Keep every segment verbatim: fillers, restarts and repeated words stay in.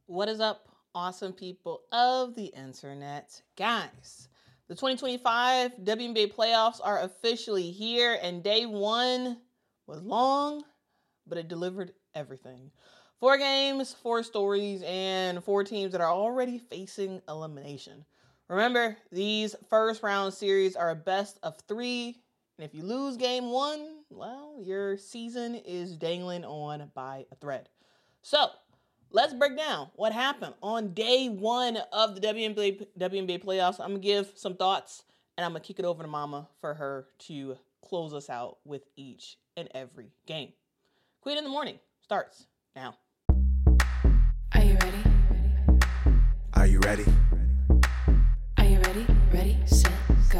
What is up, awesome people of the internet? Guys, the twenty twenty-five W N B A playoffs are officially here, and day one was long, but it delivered everything. Four games, four stories, and four teams that are already facing elimination. Remember, these first round series are a best of three, and if you lose game one, well, your season is dangling on by a thread. So, let's break down what happened on day one of the W N B A, W N B A playoffs. I'm going to give some thoughts, and I'm going to kick it over to Mama for her to close us out with each and every game. Queen in the Morning starts now. Are you ready? Are you ready? Are you ready? Ready, set, go.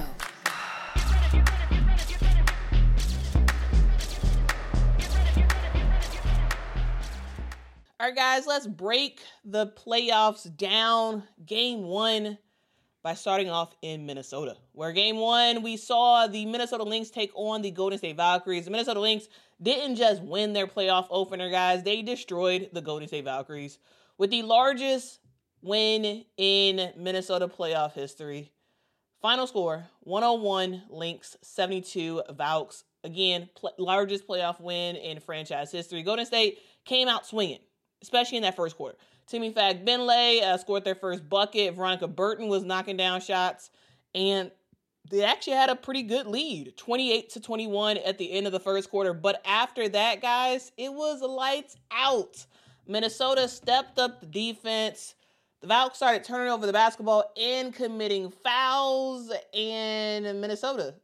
All right, guys, let's break the playoffs down. Game one by starting off in Minnesota, where game one, we saw the Minnesota Lynx take on the Golden State Valkyries. The Minnesota Lynx didn't just win their playoff opener, guys. They destroyed the Golden State Valkyries with the largest win in Minnesota playoff history. Final score, one oh one Lynx, seventy-two Valks. Again, pl- largest playoff win in franchise history. Golden State came out swinging, especially in that first quarter. Timmy Fagbenle uh, scored their first bucket. Veronica Burton was knocking down shots. And they actually had a pretty good lead, twenty-eight to twenty-one at the end of the first quarter. But after that, guys, it was lights out. Minnesota stepped up the defense. The Valks started turning over the basketball and committing fouls. And Minnesota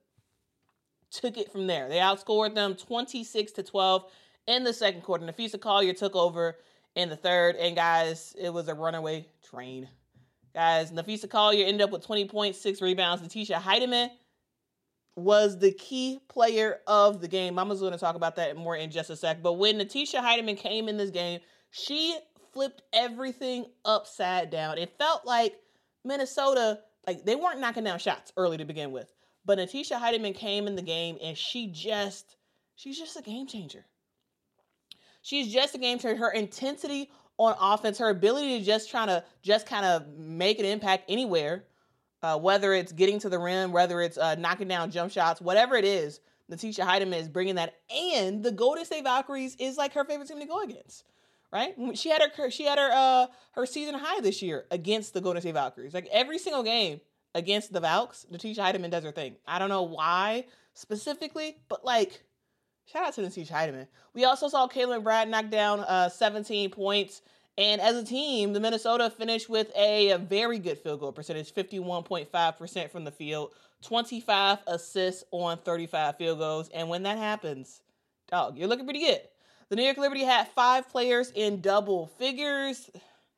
took it from there. They outscored them twenty-six to twelve in the second quarter. Napheesa Collier took over in the third, and guys, it was a runaway train. Guys, Napheesa Collier ended up with twenty points, six rebounds. Natisha Hiedeman was the key player of the game. Mama's going to talk about that more in just a sec. But when Natisha Hiedeman came in this game, she flipped everything upside down. It felt like Minnesota, like they weren't knocking down shots early to begin with. But Natisha Hiedeman came in the game, and she just, she's just a game changer. She's just a game changer. Her intensity on offense, her ability to just try to just kind of make an impact anywhere, uh, whether it's getting to the rim, whether it's uh, knocking down jump shots, whatever it is, Natisha Hiedeman is bringing that. And the Golden State Valkyries is like her favorite team to go against, right? She had her she had her uh, her season high this year against the Golden State Valkyries. Like every single game against the Valks, Natisha Hiedeman does her thing. I don't know why specifically, but like, shout out to Natisha Hiedeman. We also saw Caitlin Brad knock down uh, seventeen points. And as a team, the Minnesota finished with a, a very good field goal percentage, fifty-one point five percent from the field, twenty-five assists on thirty-five field goals. And when that happens, dog, you're looking pretty good. The New York Liberty had five players in double figures,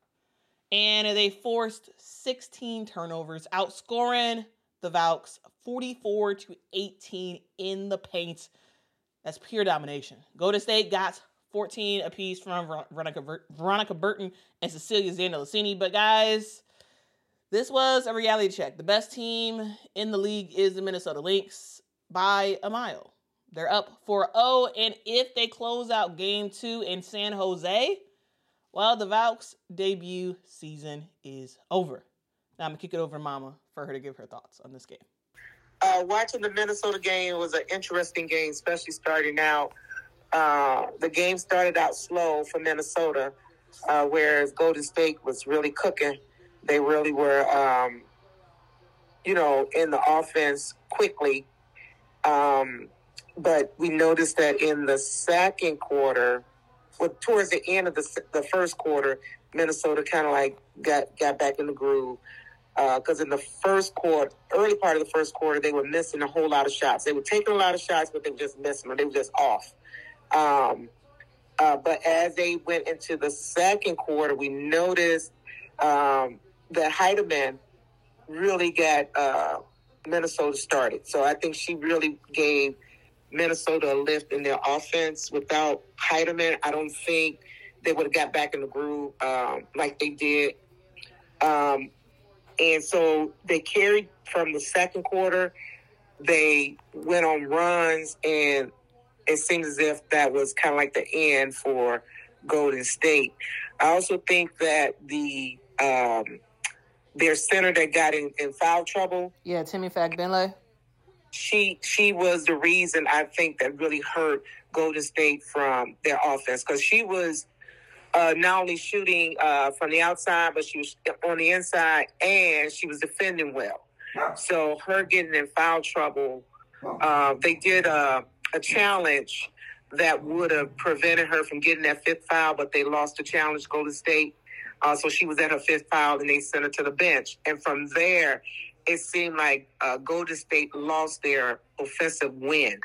and they forced sixteen turnovers, outscoring the Valks forty-four to eighteen in the paint. That's pure domination. Golden State got fourteen apiece from Veronica, Veronica Burton and Cecilia Zandalicini. But guys, this was a reality check. The best team in the league is the Minnesota Lynx by a mile. They're up four oh, and if they close out game two in San Jose, well, the Valks' debut season is over. Now I'm going to kick it over to Mama for her to give her thoughts on this game. Uh, watching the Minnesota game was an interesting game, especially starting out. Uh, the game started out slow for Minnesota, uh, whereas Golden State was really cooking. They really were, um, you know, in the offense quickly. Um, but we noticed that in the second quarter, well, towards the end of the the first quarter, Minnesota kind of like got, got back in the groove. Because uh, in the first quarter, early part of the first quarter, they were missing a whole lot of shots. They were taking a lot of shots, but they were just missing them. They were just off. Um, uh, but as they went into the second quarter, we noticed um, that Hiedeman really got uh, Minnesota started. So I think she really gave Minnesota a lift in their offense. Without Hiedeman, I don't think they would have got back in the groove um, like they did. Um, And so they carried from the second quarter. They went on runs, and it seems as if that was kind of like the end for Golden State. I also think that the um, their center that got in, in foul trouble. Yeah, Timmy Fagbenle. She she was the reason I think that really hurt Golden State from their offense, because she was uh, not only shooting uh, from the outside, but she was on the inside, and she was defending well. So her getting in foul trouble, uh, they did a, a challenge that would have prevented her from getting that fifth foul, but they lost the challenge, Golden State. Uh, so she was at her fifth foul, and they sent her to the bench. And from there, it seemed like uh, Golden State lost their offensive wind.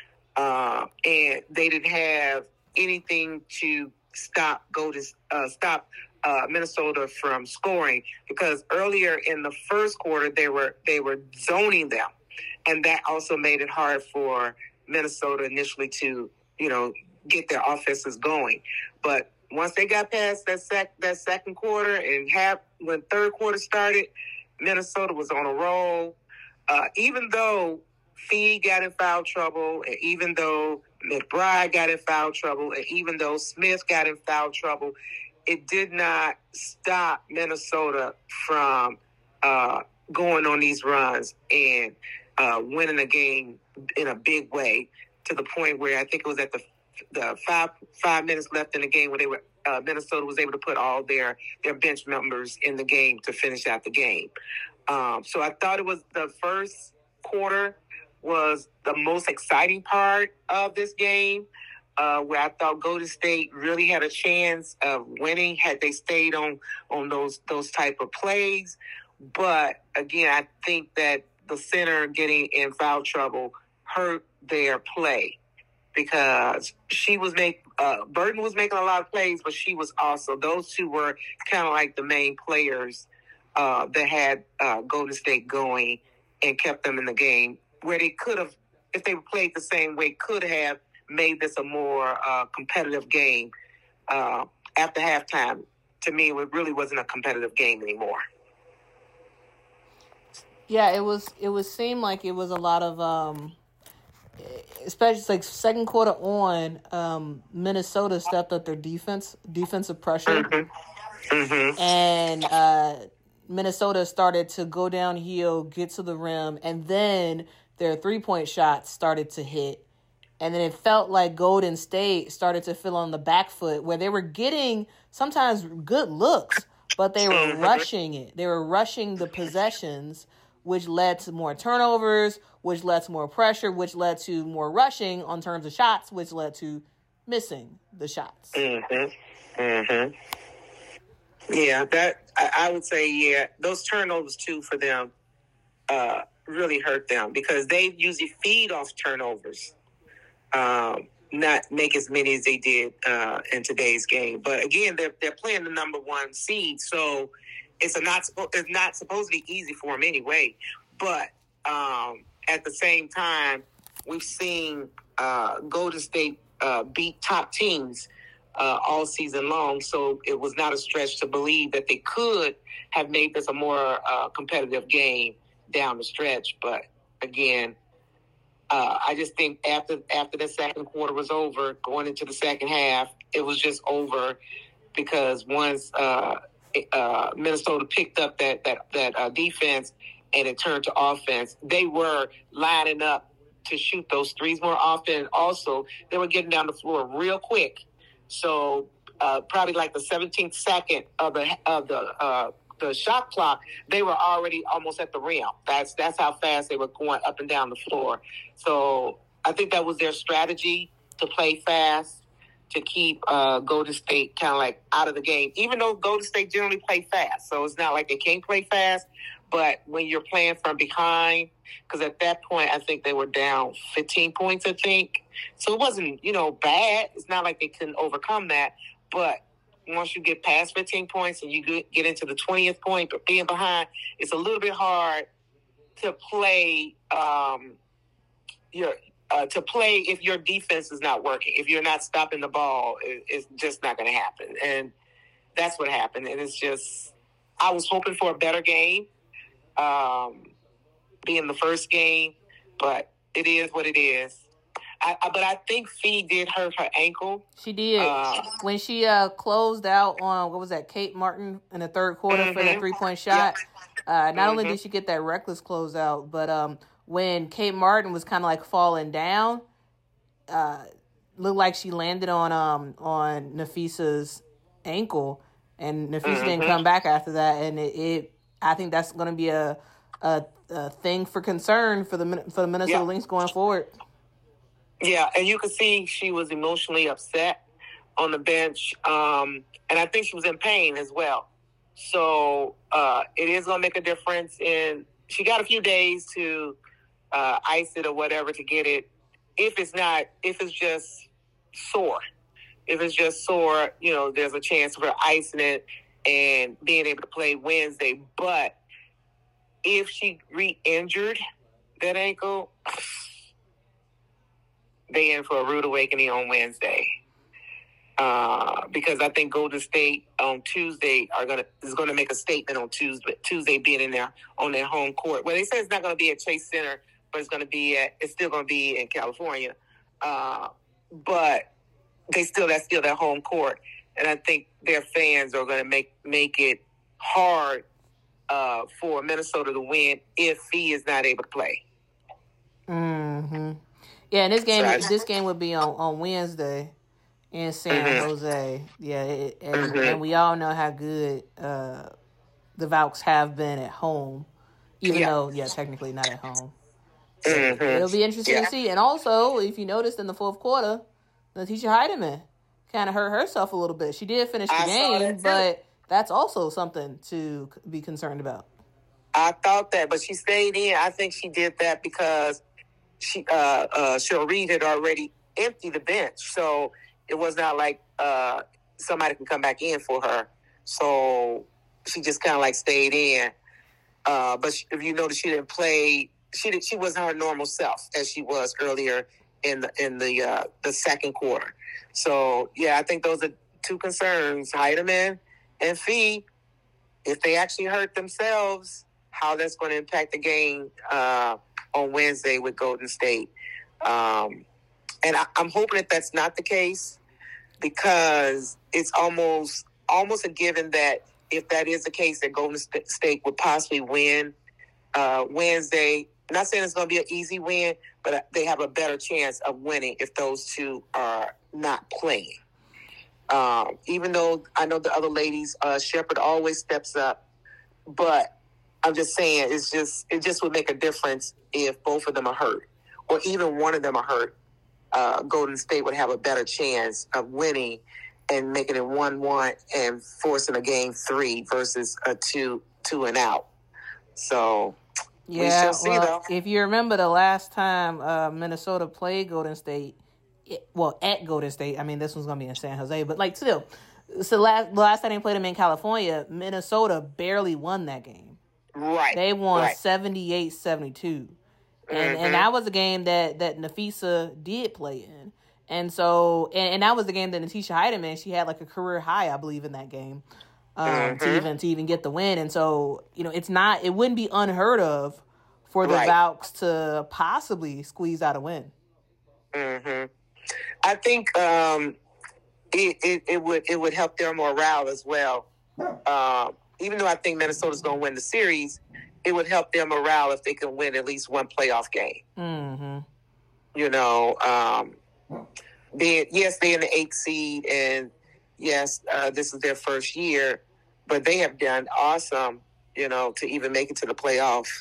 Uh, and they didn't have anything to stop Golden, uh, stop uh, Minnesota from scoring, because earlier in the first quarter, they were they were zoning them. And that also made it hard for Minnesota initially to, you know, get their offenses going. But once they got past that sec- that second quarter and half, when third quarter started, Minnesota was on a roll. Uh, even though Fee got in foul trouble, and even though McBride got in foul trouble, and even though Smith got in foul trouble, it did not stop Minnesota from uh, going on these runs and uh, winning a game in a big way, to the point where I think it was at the the five five minutes left in the game where they were uh, Minnesota was able to put all their their bench members in the game to finish out the game. Um, so I thought it was the first quarter was the most exciting part of this game, uh, where I thought Golden State really had a chance of winning had they stayed on on those those type of plays. But again, I think that the center getting in foul trouble hurt their play, because she was make uh, Burton was making a lot of plays, but she was also, those two were kind of like the main players uh, that had uh, Golden State going and kept them in the game, where they could have, if they played the same way, could have made this a more uh, competitive game. Uh, after halftime, to me, it really wasn't a competitive game anymore. Yeah, it was. It was seemed like it was a lot of, um, especially like second quarter on. Um, Minnesota stepped up their defense, defensive pressure, Mm-hmm. Mm-hmm. and uh, Minnesota started to go downhill, get to the rim, and then their three point shots started to hit, and then it felt like Golden State started to feel on the back foot, where they were getting sometimes good looks, but they were rushing it. They were rushing the possessions, which led to more turnovers, which led to more pressure, which led to more rushing on terms of shots, which led to missing the shots. Mm-hmm. Mm-hmm. Yeah, that I, I would say, yeah, those turnovers too for them uh, really hurt them, because they usually feed off turnovers, um, not make as many as they did uh, in today's game. But again, they're they're playing the number one seed, so it's a not it's not supposed to be easy for them anyway. But um, at the same time, we've seen uh, Golden State uh, beat top teams uh, all season long, so it was not a stretch to believe that they could have made this a more uh, competitive game down the stretch. But again, uh, I just think after after the second quarter was over, going into the second half, it was just over, because once uh, uh, Minnesota picked up that that that uh, defense and it turned to offense, they were lining up to shoot those threes more often. Also, they were getting down the floor real quick. So uh, probably like the seventeenth second of the of the uh, the shot clock, they were already almost at the rim. That's that's how fast they were going up and down the floor. So I think that was their strategy, to play fast, to keep uh, Golden State kind of like out of the game. Even though Golden State generally play fast, so it's not like they can't play fast. But when you're playing from behind, because at that point I think they were down fifteen points, I think. So it wasn't, you know, bad. It's not like they couldn't overcome that. But once you get past fifteen points and you get into the twentieth point, but being behind, it's a little bit hard to play. Um, your uh, to play if your defense is not working, if you're not stopping the ball, it, it's just not going to happen. And that's what happened. And it's just, I was hoping for a better game, um, being the first game, but it is what it is. I, I, but I think Fee did hurt her ankle. She did. Uh, when she uh, closed out on, what was that, Kate Martin in the third quarter mm-hmm. for that three-point shot. Uh, not mm-hmm. only did she get that reckless closeout, but um, when Kate Martin was kind of like falling down, uh, looked like she landed on um on Nafisa's ankle, and Nafisa mm-hmm. didn't come back after that. And it, it I think that's going to be a, a a thing for concern for the for the Minnesota yeah. Lynx going forward. Yeah, and you could see she was emotionally upset on the bench, um, and I think she was in pain as well. So uh, it is going to make a difference. In she got a few days to uh, ice it or whatever to get it. If it's not, if it's just sore, if it's just sore, you know, there's a chance for icing it and being able to play Wednesday. But if she re-injured that ankle, they in for a rude awakening on Wednesday. Uh, because I think Golden State on Tuesday are gonna is gonna make a statement on Tuesday. Tuesday being in there on their home court. Well, they say it's not gonna be at Chase Center, but it's gonna be at. It's still gonna be in California. Uh, but they still that's still their home court, and I think their fans are gonna make make it hard uh, for Minnesota to win if he is not able to play. Mm-hmm. Yeah, and this game So I, this game would be on, on Wednesday in San mm-hmm. Jose. Yeah, it, and, mm-hmm. and we all know how good uh, the Valks have been at home, even yeah. though, yeah, technically not at home. So mm-hmm. it'll be interesting yeah. to see. And also, if you noticed in the fourth quarter, Letitia Heidemann kind of hurt herself a little bit. She did finish the I game, that but that's also something to be concerned about. I thought that, but she stayed in. I think she did that because she uh, uh, Cheryl Reed had already emptied the bench, so it was not like uh, somebody can come back in for her. So she just kind of like stayed in. Uh, but she, if you notice, she didn't play. She did, she wasn't her normal self as she was earlier in the in the uh, the second quarter. So yeah, I think those are two concerns: Heidemann and Fee. If they actually hurt themselves, how that's going to impact the game uh, on Wednesday with Golden State. Um, and I, I'm hoping that that's not the case, because it's almost almost a given that if that is the case, that Golden State would possibly win uh, Wednesday. I'm not saying it's going to be an easy win, but they have a better chance of winning if those two are not playing. Um, even though I know the other ladies, uh, Shepherd always steps up, but I'm just saying it's just it just would make a difference if both of them are hurt, or even one of them are hurt. Uh, Golden State would have a better chance of winning and making it one one and forcing a game three versus a two two and out. So yeah, we shall see, well, though. If you remember the last time uh, Minnesota played Golden State, it, well, at Golden State, I mean, this one's going to be in San Jose, but like still, so last, the last time they played them in California, Minnesota barely won that game. Right. They won right. seventy-eight seventy-two. And mm-hmm. and that was a game that, that Nafisa did play in. And so, and, and that was the game that Natisha Heidemann, she had like a career high, I believe, in that game um, mm-hmm. to even to even get the win. And so, you know, it's not, it wouldn't be unheard of for the right. Valks to possibly squeeze out a win. Mm-hmm. I think um, it, it it would it would help their morale as well. Uh, even though I think Minnesota's going to win the series, it would help their morale if they can win at least one playoff game. Mm-hmm. You know, um, being, yes, they're in the eighth seed, and yes, uh, this is their first year, but they have done awesome, you know, to even make it to the playoffs.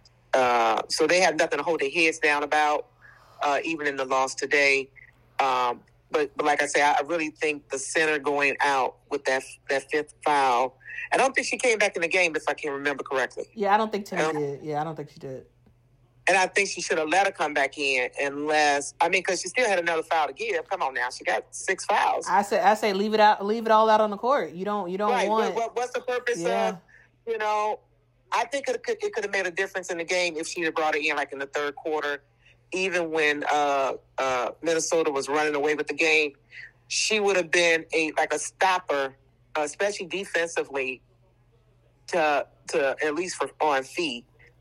Uh, so they have nothing to hold their heads down about, uh, even in the loss today. Um, but, but like I say, I really think the center going out with that that fifth foul, I don't think she came back in the game, if I can remember correctly. Yeah, I don't think Timmy um, did. Yeah, I don't think she did. And I think she should have let her come back in, unless I mean, because she still had another foul to give. Come on now, she got six fouls. I say, I say, leave it out, leave it all out on the court. You don't, you don't right. want. What, what, what's the purpose yeah. of? You know, I think it could it could have made a difference in the game if she had brought her in like in the third quarter, even when uh, uh, Minnesota was running away with the game. She would have been a like a stopper, uh, especially defensively, to to at least for on Fee.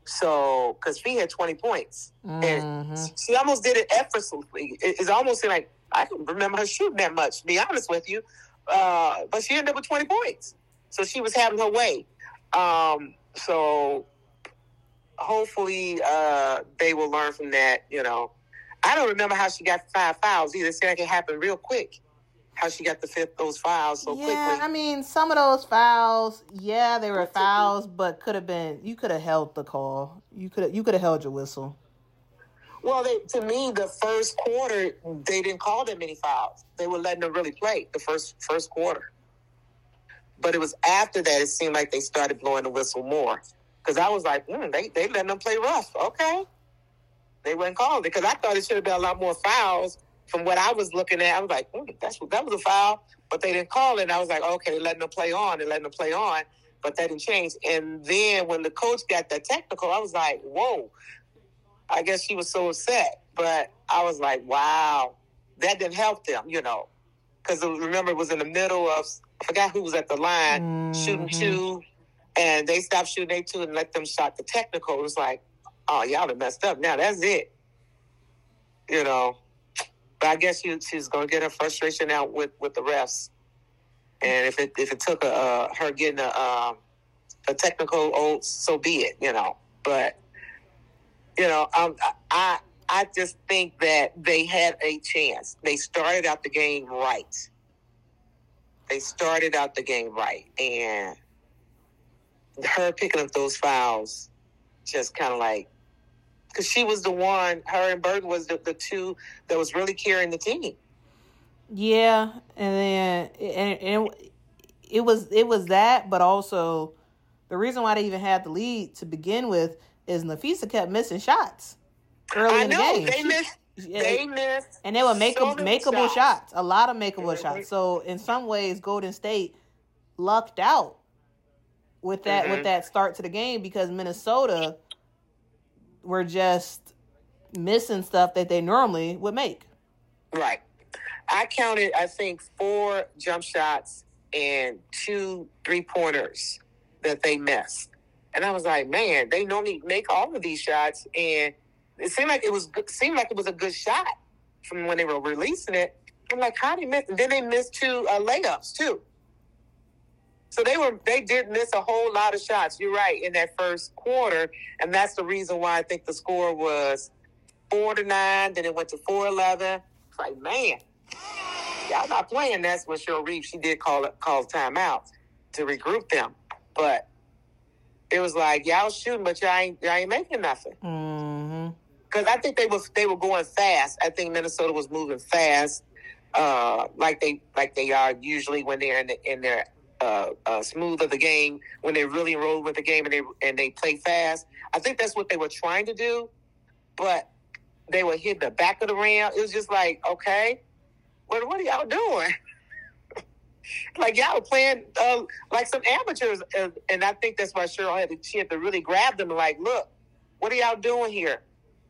So, because Fee had twenty points. Mm-hmm. And she almost did it effortlessly. It, it almost seemed like, I can remember her shooting that much, to be honest with you. Uh, but she ended up with twenty points. So she was having her way. Um, so hopefully uh, they will learn from that, you know. I don't remember how she got five fouls either. It seemed like it happened real quick. How she got the fifth those fouls so yeah, quickly. Yeah, I mean, some of those fouls, yeah, they were fouls, but could have been. You could have held the call. You could have. You could have held your whistle. Well, they, to me, the first quarter they didn't call that many fouls. They were letting them really play the first first quarter. But it was after that it seemed like they started blowing the whistle more. Because I was like, mm, they they letting them play rough. Okay, they weren't calling it because I thought it should have been a lot more fouls. From what I was looking at, I was like, mm, that's that was a foul, but they didn't call it. And I was like, okay, they're letting them play on, they're letting them play on, but that didn't change. And then when the coach got that technical, I was like, whoa, I guess she was so upset. But I was like, wow, that didn't help them, you know, because remember it was in the middle of, I forgot who was at the line, mm-hmm. shooting two, and they stopped shooting they two and let them shot the technical. It was like, oh, y'all done messed up. Now that's it, you know. But I guess she, she's going to get her frustration out with, with the refs. And if it if it took a, uh, her getting a, uh, a technical, oh, so be it, you know. But, you know, um, I I just think that they had a chance. They started out the game right. They started out the game right. And her picking up those fouls just kind of like, because she was the one, her and Burton was the, the two that was really carrying the team. Yeah, and then and, and it was it was that, but also the reason why they even had the lead to begin with is Napheesa kept missing shots early I in the know, game. They She, missed. They missed. And they were makeable, so makeable shots. shots, a lot of makeable Mm-hmm. shots. So in some ways, Golden State lucked out with that Mm-hmm. with that start to the game because Minnesota were just missing stuff that they normally would make. Right. I counted, I think, four jump shots and two three-pointers that they missed. And I was like, man, they normally make all of these shots, and it seemed like it was seemed like it was a good shot from when they were releasing it. I'm like, how did they miss? And then they missed two uh, layups, too. So they were they did miss a whole lot of shots. You're right, in that first quarter, and that's the reason why I think the score was four to nine. Then it went to four eleven. It's like, man, y'all not playing. That's when Cheryl Reeves she did call it call timeout to regroup them, but it was like y'all shooting, but y'all ain't y'all ain't making nothing. Mm-hmm. Because I think they was they were going fast. I think Minnesota was moving fast, uh, like they like they are usually when they're in the, in their. Uh, uh, smooth of the game when they really roll with the game and they and they play fast. I think that's what they were trying to do, but they were hitting the back of the rim. It was just like, okay, what what are y'all doing? Like y'all were playing uh, like some amateurs, uh, and I think that's why Cheryl had to, she had to really grab them and like, look, what are y'all doing here?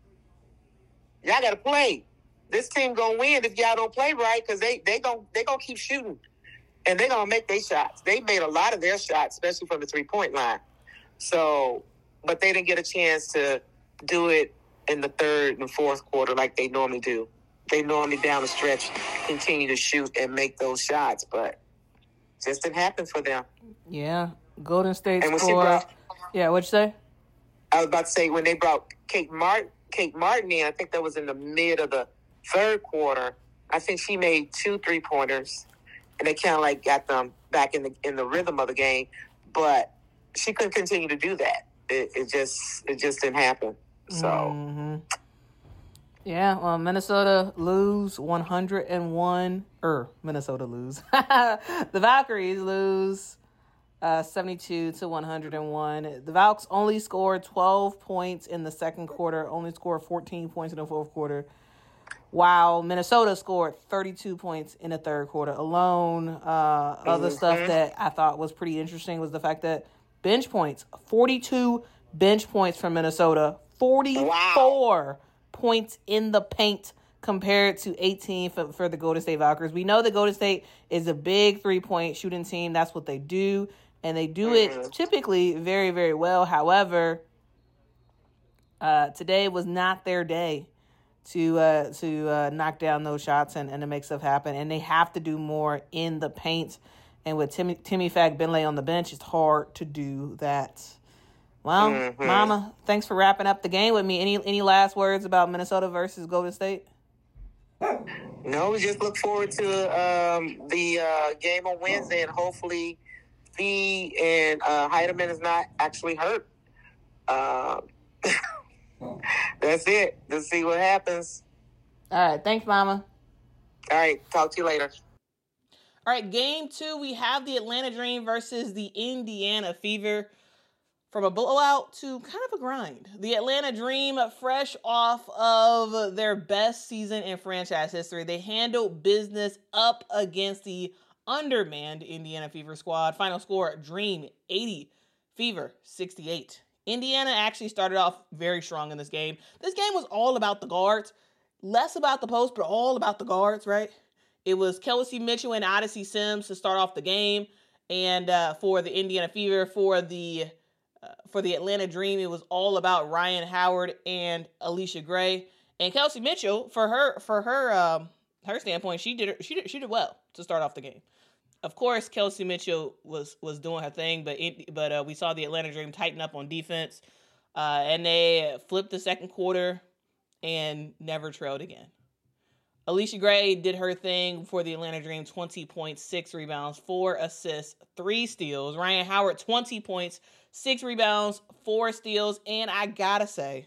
Y'all got to play. This team gonna win if y'all don't play right because they they gonna they gonna keep shooting. And they're going to make their shots. They made a lot of their shots, especially from the three-point line. So, but they didn't get a chance to do it in the third and fourth quarter like they normally do. They normally down the stretch continue to shoot and make those shots, but it just didn't happen for them. Yeah, Golden State and when score. Brought, yeah, what'd you say? I was about to say when they brought Kate Martin, Kate Martin in, I think that was in the mid of the third quarter. I think she made two three-pointers. And they kind of like got them back in the in the rhythm of the game, but she couldn't continue to do that. It, it just it just didn't happen. So, mm-hmm. yeah, well, Minnesota lose one hundred and one. Er, Minnesota lose. The Valkyries lose uh, seventy-two to one hundred and one. The Valks only scored twelve points in the second quarter. Only scored fourteen points in the fourth quarter. While Minnesota scored thirty-two points in the third quarter alone. Uh, other mm-hmm. stuff that I thought was pretty interesting was the fact that bench points, forty-two bench points from Minnesota, forty-four wow. points in the paint compared to eighteen for, for the Golden State Valkyries. We know that Golden State is a big three-point shooting team. That's what they do, and they do mm-hmm. it typically very, very well. However, Uh, today was not their day to uh, to uh, knock down those shots and, and to make stuff happen. And they have to do more in the paint. And with Timmy, Timmy Fagbenle on the bench, it's hard to do that. Well, mm-hmm. Mama, thanks for wrapping up the game with me. Any any last words about Minnesota versus Golden State? No, we just look forward to um, the uh, game on Wednesday, and hopefully Fee and uh, Heidemann is not actually hurt. Uh, that's it. Let's see what happens. All right. Thanks, Mama. All right. Talk to you later. All right. Game two, we have the Atlanta Dream versus the Indiana Fever. From a blowout to kind of a grind. The Atlanta Dream, fresh off of their best season in franchise history, they handled business up against the undermanned Indiana Fever squad. Final score, Dream eighty, Fever sixty-eight. Indiana actually started off very strong in this game. This game was all about the guards. Less about the post, but all about the guards, right? It was Kelsey Mitchell and Odyssey Sims to start off the game. And uh, for the Indiana Fever, for the Uh, for the Atlanta Dream, it was all about Ryan Howard and Alicia Gray. And Kelsey Mitchell, for her for her um, her standpoint, she did she did she did well to start off the game. Of course, Kelsey Mitchell was was doing her thing, but it, but uh, we saw the Atlanta Dream tighten up on defense, uh, and they flipped the second quarter and never trailed again. Alicia Gray did her thing for the Atlanta Dream, twenty points, six rebounds, four assists, three steals. Ryan Howard, twenty points, six rebounds, four steals. And I gotta say,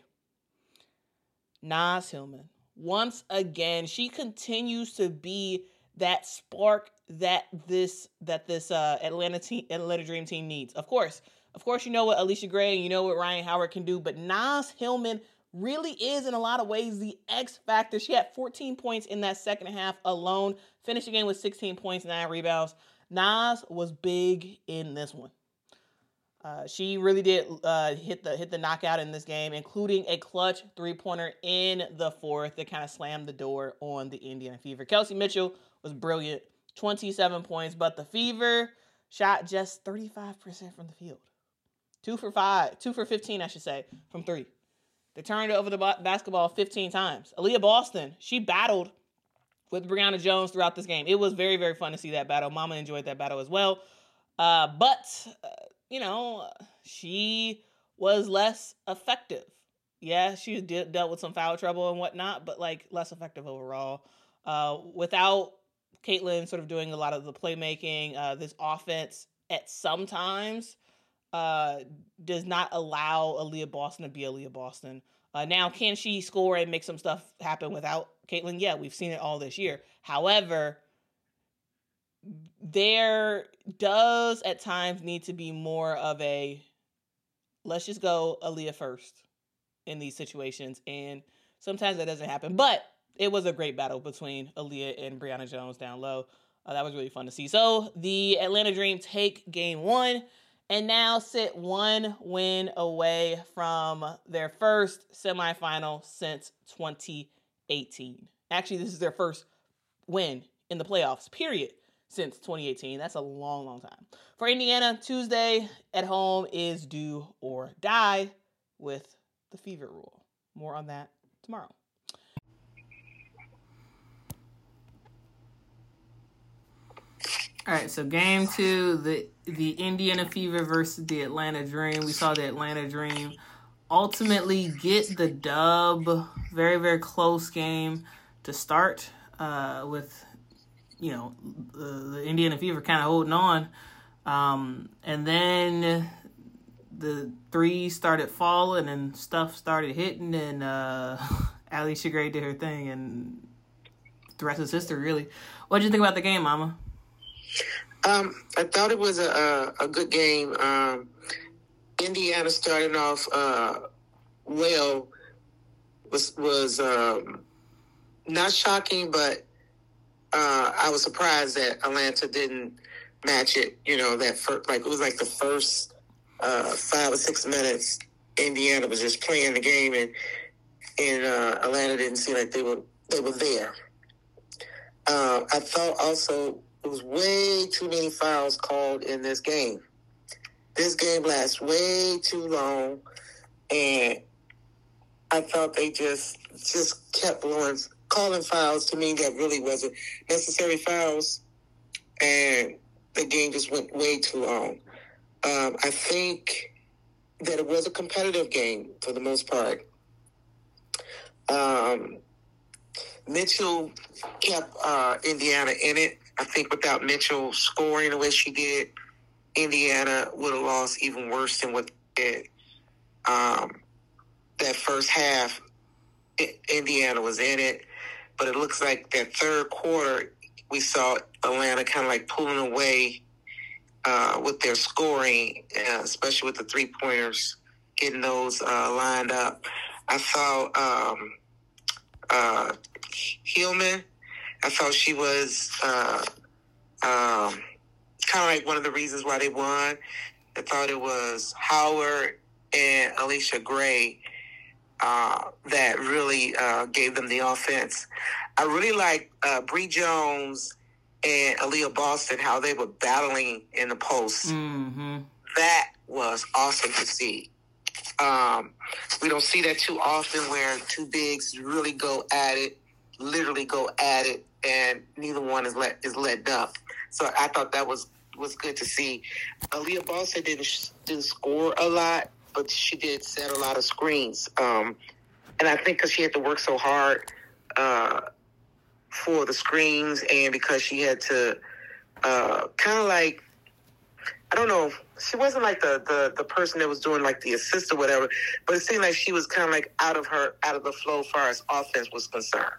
Naz Hillman, once again, she continues to be that spark that this that this uh, Atlanta team, Atlanta Dream team needs. Of course, of course, you know what Alicia Gray and you know what Ryan Howard can do, but Naz Hillman really is, in a lot of ways, the X factor. She had fourteen points in that second half alone. Finished the game with sixteen points, nine rebounds. Naz was big in this one. Uh, she really did uh, hit the hit the knockout in this game, including a clutch three-pointer in the fourth that kind of slammed the door on the Indiana Fever. Kelsey Mitchell was brilliant, twenty-seven points, but the Fever shot just thirty-five percent from the field. Two for five, two for fifteen, I should say, from three. They turned over the basketball fifteen times. Aaliyah Boston, she battled with Brianna Jones throughout this game. It was very, very fun to see that battle. Mama enjoyed that battle as well. Uh, but, uh, you know, she was less effective. Yeah, she did, dealt with some foul trouble and whatnot, but, like, less effective overall. Uh, without Caitlin sort of doing a lot of the playmaking, uh, this offense at some times Uh, does not allow Aaliyah Boston to be Aaliyah Boston. Uh, now, can she score and make some stuff happen without Caitlin? Yeah, we've seen it all this year. However, there does at times need to be more of a, let's just go Aaliyah first in these situations. And sometimes that doesn't happen. But it was a great battle between Aaliyah and Brianna Jones down low. Uh, that was really fun to see. So the Atlanta Dream take game one and now sit one win away from their first semifinal since twenty eighteen. Actually, this is their first win in the playoffs, period, since twenty eighteen. That's a long, long time. For Indiana, Tuesday at home is do or die with the Fever rule. More on that tomorrow. All right, so game two, the the Indiana Fever versus the Atlanta Dream. We saw the Atlanta Dream ultimately get the dub. Very, very close game to start uh, with, you know, the, the Indiana Fever kind of holding on. Um, and then the three started falling and stuff started hitting, and uh, Alicia Gray did her thing, and the rest is history, really. What did you think about the game, Mama? Um, I thought it was a a, a good game. Um, Indiana starting off uh, well was was um, not shocking, but uh, I was surprised that Atlanta didn't match it. You know, that first, like it was like the first uh, five or six minutes, Indiana was just playing the game, and and uh, Atlanta didn't seem like they were they were there. Uh, I thought also. There was way too many fouls called in this game. This game lasts way too long, and I thought they just just kept blowing, calling fouls to me that really wasn't necessary fouls, and the game just went way too long. Um, I think that it was a competitive game for the most part. Um, Mitchell kept uh, Indiana in it. I think without Mitchell scoring the way she did, Indiana would have lost even worse than what they did. Um, that first half, Indiana was in it, but it looks like that third quarter, we saw Atlanta kind of like pulling away uh, with their scoring, uh, especially with the three-pointers, getting those uh, lined up. I thought um, uh, Hillman, I thought she was uh, um, kind of like one of the reasons why they won. I thought it was Howard and Alicia Gray uh, that really uh, gave them the offense. I really like uh, Bree Jones and Aaliyah Boston, how they were battling in the post. Mm-hmm. That was awesome to see. Um, we don't see that too often where two bigs really go at it, literally go at it, and neither one is let is let up. So I thought that was, was good to see. Aaliyah Boston didn't didn't score a lot, but she did set a lot of screens. Um, and I think because she had to work so hard uh, for the screens, and because she had to uh, kind of like, I don't know, she wasn't like the, the, the person that was doing like the assist or whatever, but it seemed like she was kind of like out of her, out of the flow as far as offense was concerned.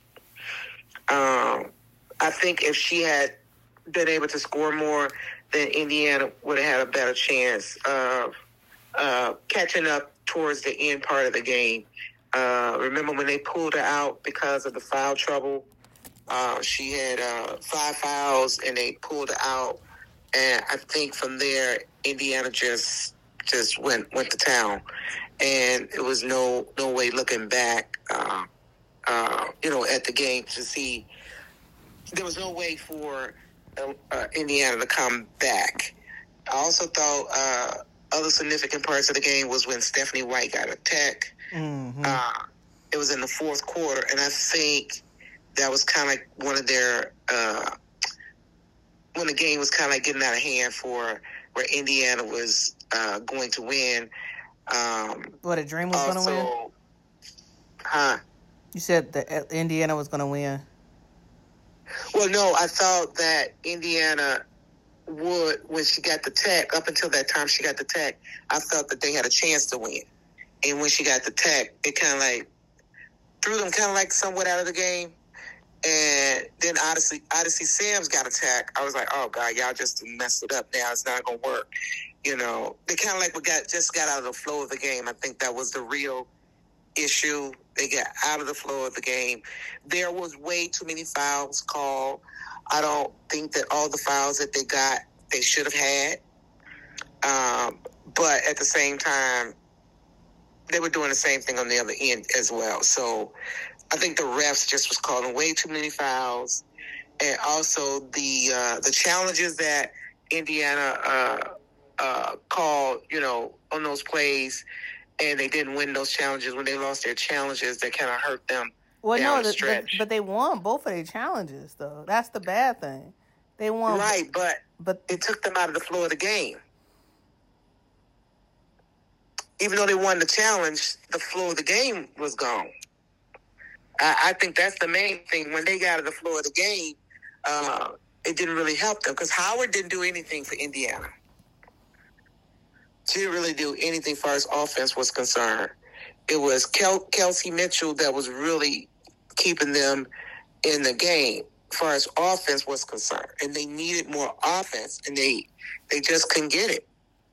Um, I think if she had been able to score more, then Indiana would have had a better chance of uh, catching up towards the end part of the game. Uh, remember when they pulled her out because of the foul trouble? Uh, she had uh, five fouls, and they pulled her out. And I think from there, Indiana just just went went to town, and it was no no way looking back. Uh, uh, you know, at the game to see there was no way for uh, uh, Indiana to come back. I also thought uh, other significant parts of the game was when Stephanie White got a tech. Mm-hmm. Uh, it was in the fourth quarter, and I think that was kind of like one of their uh, when the game was kind of like getting out of hand for where Indiana was uh, going to win. Um, What, a dream was going to win? Huh? You said that Indiana was going to win. Well, no, I thought that Indiana would, when she got the tech, up until that time she got the tech, I felt that they had a chance to win. And when she got the tech, it kind of like threw them kind of like somewhat out of the game. And then Odyssey, Odyssey Sam's got a tech. I was like, oh, God, y'all just messed it up now. It's not going to work. You know, they kind of like we got just got out of the flow of the game. I think that was the real issue. They got out of the flow of the game. There was way too many fouls called. I don't think that all the fouls that they got, they should have had. Um, but at the same time, they were doing the same thing on the other end as well. So I think the refs just was calling way too many fouls. And also the uh, the challenges that Indiana uh, uh, called, you know, on those plays, and they didn't win those challenges. When they lost their challenges, that kind of hurt them. Well, down no, the the, stretch. the, but they won both of their challenges, though. That's the bad thing. They won. Right, but, but it took them out of the flow of the game. Even though they won the challenge, the flow of the game was gone. I, I think that's the main thing. When they got out of the flow of the game, uh, it didn't really help them because Howard didn't do anything for Indiana. She didn't really do anything as far as offense was concerned. It was Kel- Kelsey Mitchell that was really keeping them in the game as far as offense was concerned. And they needed more offense, and they they just couldn't get it.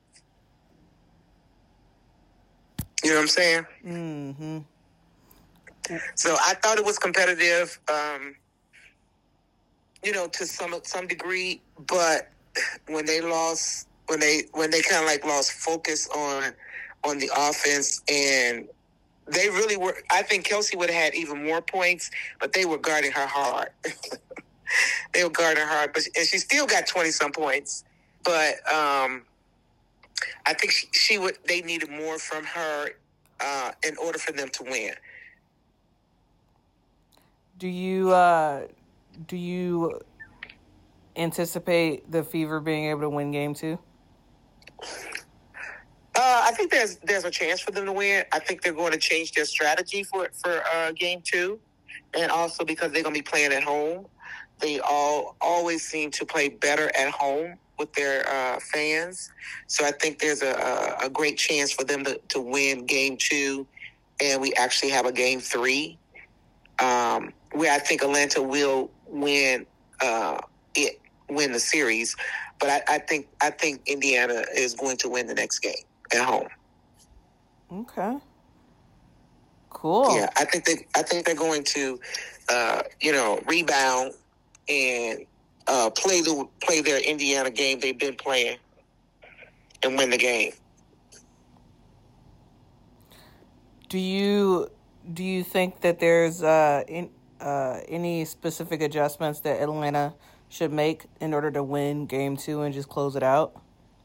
You know what I'm saying? Mm-hmm. So I thought it was competitive, um, you know, to some some degree. But when they lost, when they when they kind of like lost focus on on the offense, and they really were. I think Kelsey would have had even more points, but they were guarding her hard. They were guarding her hard, but and she still got twenty some points. But um, I think she, she would. They needed more from her uh, in order for them to win. Do you uh, do you anticipate the Fever being able to win game two? Uh, I think there's there's a chance for them to win. I think they're going to change their strategy for for uh, game two, and also because they're going to be playing at home. They all always seem to play better at home with their uh, fans. So I think there's a, a, a great chance for them to, to win game two, and we actually have a game three, um, where I think Atlanta will win uh, it win the series. But I, I think I think Indiana is going to win the next game at home. Okay. Cool. Yeah, I think they I think they're going to, uh, you know, rebound and uh, play the play their Indiana game they've been playing and win the game. Do you do you think that there's uh, in, uh, any specific adjustments that Atlanta should make in order to win game two and just close it out?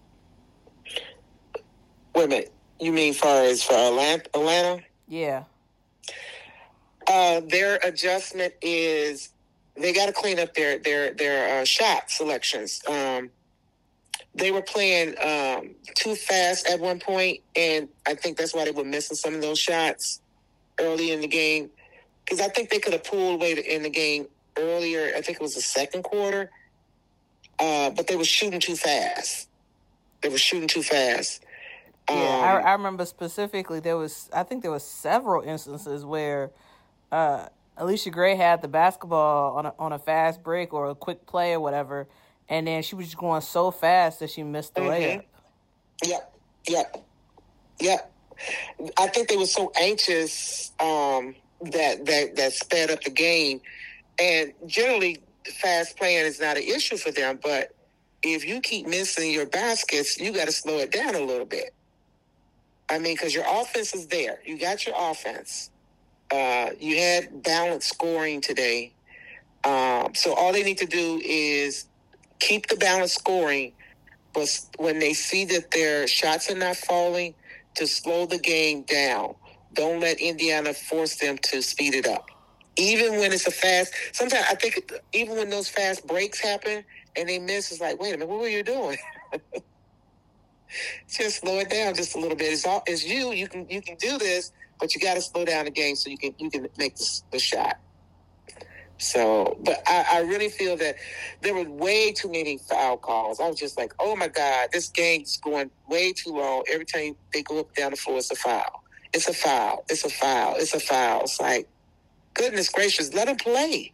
Wait a minute. You mean far as for Atlanta? Yeah. Uh, their adjustment is they got to clean up their their their uh, shot selections. Um, they were playing um, too fast at one point, and I think that's why they were missing some of those shots early in the game. Because I think they could have pulled away in the game earlier. I think it was the second quarter, uh, but they were shooting too fast. They were shooting too fast. Yeah, um, I, I remember specifically there was, I think there was several instances where uh, Alicia Gray had the basketball on a, on a fast break or a quick play or whatever, and then she was just going so fast that she missed the mm-hmm. layup. Yep, yep, yep. I think they were so anxious um, that, that that sped up the game. And generally, fast playing is not an issue for them, but if you keep missing your baskets, you got to slow it down a little bit. I mean, because your offense is there. You got your offense. Uh, you had balanced scoring today. Um, so all they need to do is keep the balanced scoring, but when they see that their shots are not falling, to slow the game down. Don't let Indiana force them to speed it up. Even when it's a fast, sometimes I think even when those fast breaks happen and they miss, it's like, wait a minute, what were you doing? Just slow it down just a little bit. It's all it's you. You can you can do this, but you got to slow down the game so you can you can make the, the shot. So, but I, I really feel that there were way too many foul calls. I was just like, oh my God, this game's going way too long. Every time they go up down the floor, it's a foul. It's a foul. It's a foul. It's a foul. It's like, goodness gracious, let them play.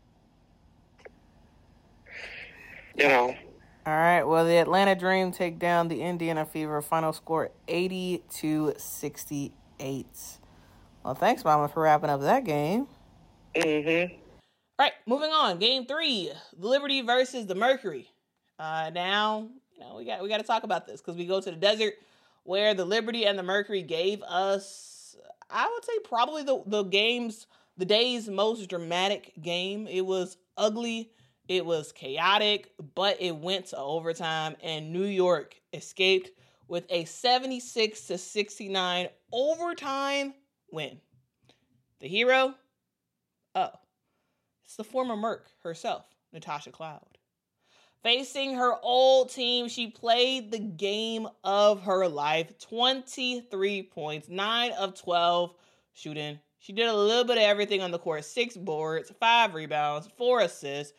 You know. All right, well, the Atlanta Dream take down the Indiana Fever. Final score eighty to sixty-eight. Well, thanks, Mama, for wrapping up that game. Mm-hmm. All right, moving on. Game three, the Liberty versus the Mercury. Uh, now, you know, we got we got to talk about this because we go to the desert where the Liberty and the Mercury gave us, I would say, probably the, the game's, the day's most dramatic game. It was ugly. It was chaotic, but it went to overtime, and New York escaped with a seventy-six to sixty-nine overtime win. The hero? Oh, it's the former Merc herself, Natasha Cloud. Facing her old team, she played the game of her life. twenty-three points, nine of twelve shooting. She did a little bit of everything on the court. Six boards, five rebounds, four assists.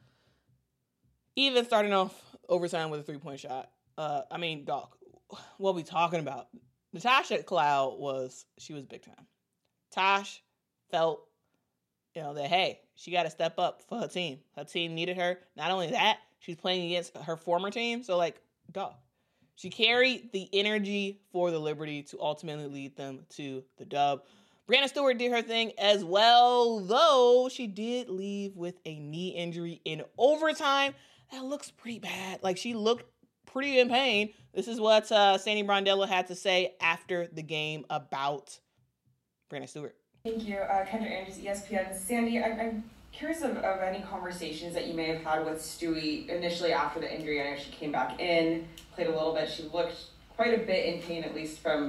Even starting off overtime with a three-point shot. Uh, I mean, dog, what are we talking about? Natasha Cloud was, she was big time. Tosh felt, you know, that, hey, she got to step up for her team. Her team needed her. Not only that, she's playing against her former team. So, like, dog, she carried the energy for the Liberty to ultimately lead them to the dub. Breanna Stewart did her thing as well, though she did leave with a knee injury in overtime. That looks pretty bad. Like, she looked pretty in pain. This is what uh, Sandy Brondello had to say after the game about Breanna Stewart. Thank you. Uh, Kendra Andrews, E S P N. Sandy, I'm, I'm curious of, of any conversations that you may have had with Stewie initially after the injury. I know she came back in, played a little bit. She looked quite a bit in pain, at least from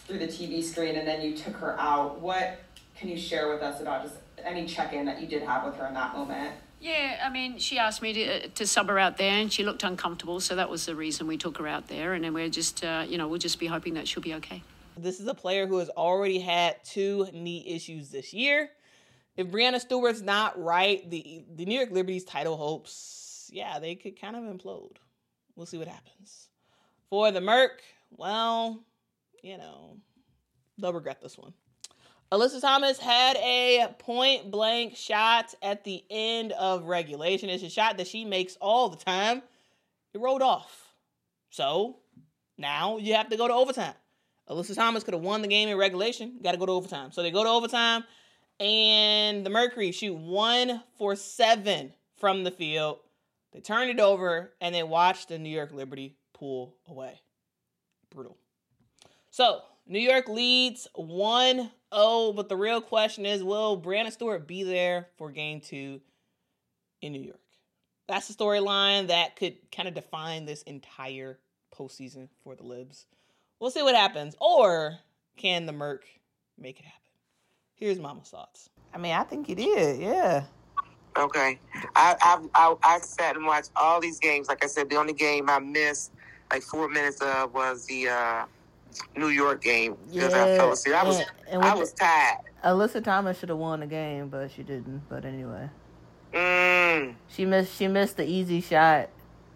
through the T V screen and then you took her out. What can you share with us about just any check-in that you did have with her in that moment? Yeah, I mean, she asked me to to sub her out there, and she looked uncomfortable, so that was the reason we took her out there. And then we're just, uh, you know, we'll just be hoping that she'll be okay. This is a player who has already had two knee issues this year. If Breanna Stewart's not right, the the New York Liberty's title hopes, yeah, they could kind of implode. We'll see what happens. For the Merc, well, you know, they'll regret this one. Alyssa Thomas had a point-blank shot at the end of regulation. It's a shot that she makes all the time. It rolled off. So, now you have to go to overtime. Alyssa Thomas could have won the game in regulation. Got to go to overtime. So, they go to overtime, and the Mercury shoot one for seven from the field. They turn it over, and they watch the New York Liberty pull away. Brutal. So, New York leads one oh, but the real question is, will Breanna Stewart be there for game two in New York? That's the storyline that could kind of define this entire postseason for the Libs. We'll see what happens. Or can the Merc make it happen? Here's Mama's thoughts. I mean, I think he did, yeah. Okay. I, I I I sat and watched all these games. Like I said, the only game I missed like four minutes of was the uh, New York game because yeah, I fell asleep. I was and, and I was tired. Alyssa Thomas should have won the game, but she didn't. But anyway, mm. she missed she missed the easy shot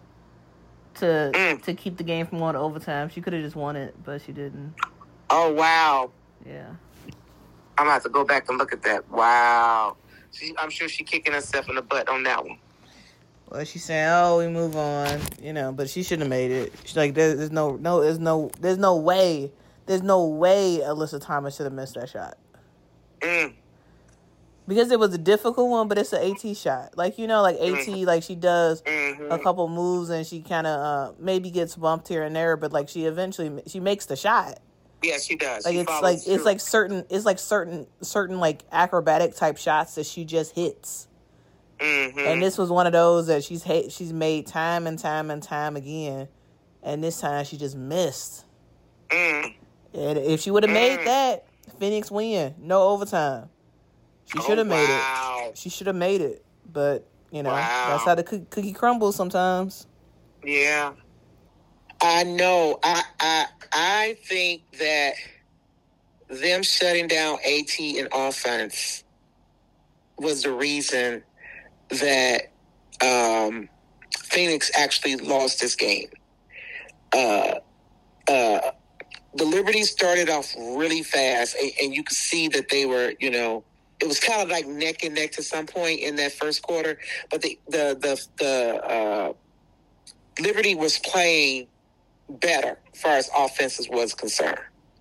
to mm. to keep the game from going to overtime. She could have just won it, but she didn't. Oh wow! Yeah, I'm gonna have to go back and look at that. Wow, she, I'm sure she kicking herself in the butt on that one. Well, she's saying, "Oh, we move on," you know, but she shouldn't have made it. She's like, there, "There's no, no, there's no, there's no way, there's no way Alyssa Thomas should have missed that shot." Mm. Because it was a difficult one, but it's an AT shot. Like, you know, like AT, mm-hmm. like she does mm-hmm. a couple moves and she kind of uh, maybe gets bumped here and there, but like she eventually she makes the shot. Yeah, she does. Like she it's like through. it's like certain it's like certain certain like acrobatic type shots that she just hits. Mm-hmm. And this was one of those that she's ha- she's made time and time and time again, and this time she just missed. Mm. And if she would have mm. made that, Phoenix win, no overtime. She should have oh, made wow. it. She should have made it, but you know wow. that's how the cookie, cookie crumbles sometimes. Yeah, I know. I I I think that them shutting down AT in offense was the reason that um, Phoenix actually lost this game. Uh, uh, the Liberty started off really fast, and, and you could see that they were, you know, it was kind of like neck and neck to some point in that first quarter. But the the the, the uh, Liberty was playing better as far as offenses was concerned,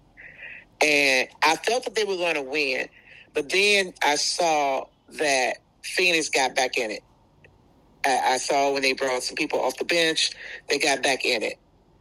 and I felt that they were going to win. But then I saw that Phoenix got back in it. I, I saw when they brought some people off the bench, they got back in it.